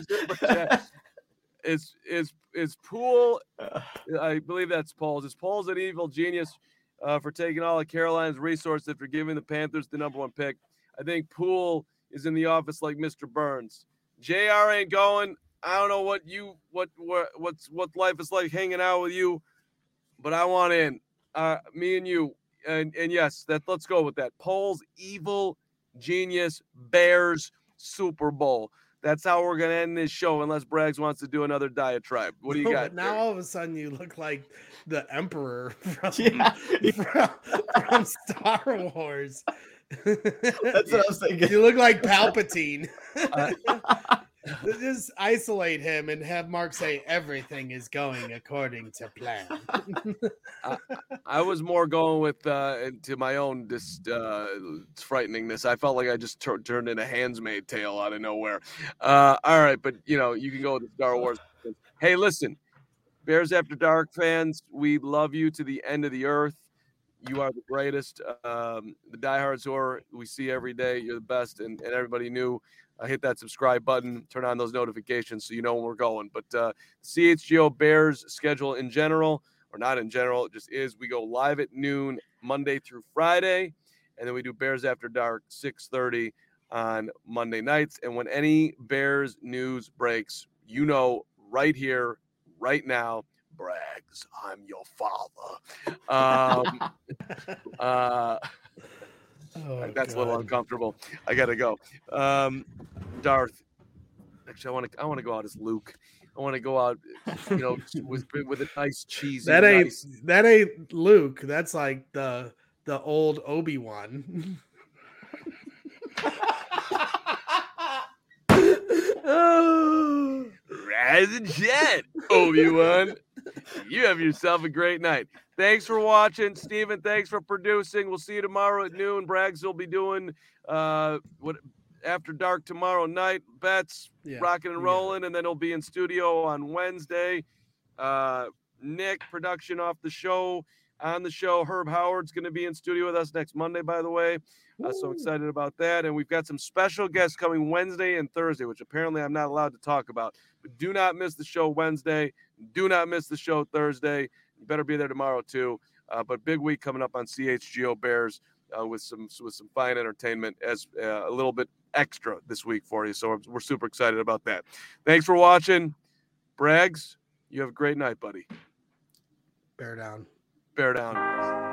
Is is is Poole? I believe that's Poles. Is Poles an evil genius uh, for taking all of Carolina's resources for giving the Panthers the number one pick? I think Poole is in the office like Mister Burns. J R ain't going. I don't know what you what what what's what life is like hanging out with you, but I want in. Uh, me and you, and and yes, that let's go with that. Poles, evil genius, Bears, Super Bowl. That's how we're gonna end this show, unless Braggs wants to do another diatribe. What do you No, got? but now all of a sudden you look like the Emperor from, Yeah. from, from Star Wars. That's what I was thinking. You look like Palpatine. Uh, Just isolate him and have Mark say everything is going according to plan. I was more going with uh, to my own just uh, frighteningness. I felt like I just tur- turned in a Handmaid's Tale out of nowhere. Uh, all right, but you know you can go with the Star Wars. Hey, listen, Bears After Dark fans, we love you to the end of the earth. You are the greatest. Um, the diehards who are we see every day, you're the best, and, and everybody knew. Uh, hit that subscribe button, turn on those notifications so you know when we're going. But uh, C H G O Bears schedule in general, or not in general, it just is. We go live at noon Monday through Friday, and then we do Bears After Dark six thirty on Monday nights. And when any Bears news breaks, you know right here, right now, Braggs, I'm your father. Um, uh, Oh, that's a little God. uncomfortable. I gotta go. Um, Darth. Actually, I want to. I want to go out as Luke. I want to go out, you know, with with a nice cheesy. That ain't nice- that ain't Luke. That's like the the old Obi-Wan. Oh. Rise and shed, Obi-Wan. You have yourself a great night. Thanks for watching, Steven. Thanks for producing. We'll see you tomorrow at noon. Braggs will be doing uh what After Dark tomorrow night. Bets, Yeah, rocking and yeah. rolling, and then he'll be in studio on Wednesday. Uh, Nick, production off the show. On the show, Herb Howard's going to be in studio with us next Monday, by the way. Uh, so excited about that. And we've got some special guests coming Wednesday and Thursday, which apparently I'm not allowed to talk about. But do not miss the show Wednesday. Do not miss the show Thursday. You better be there tomorrow, too. Uh, but big week coming up on C H G O Bears uh, with some with some fine entertainment as uh, a little bit extra this week for you. So we're, we're super excited about that. Thanks for watching. Braggs, you have a great night, buddy. Bear down. Bear down.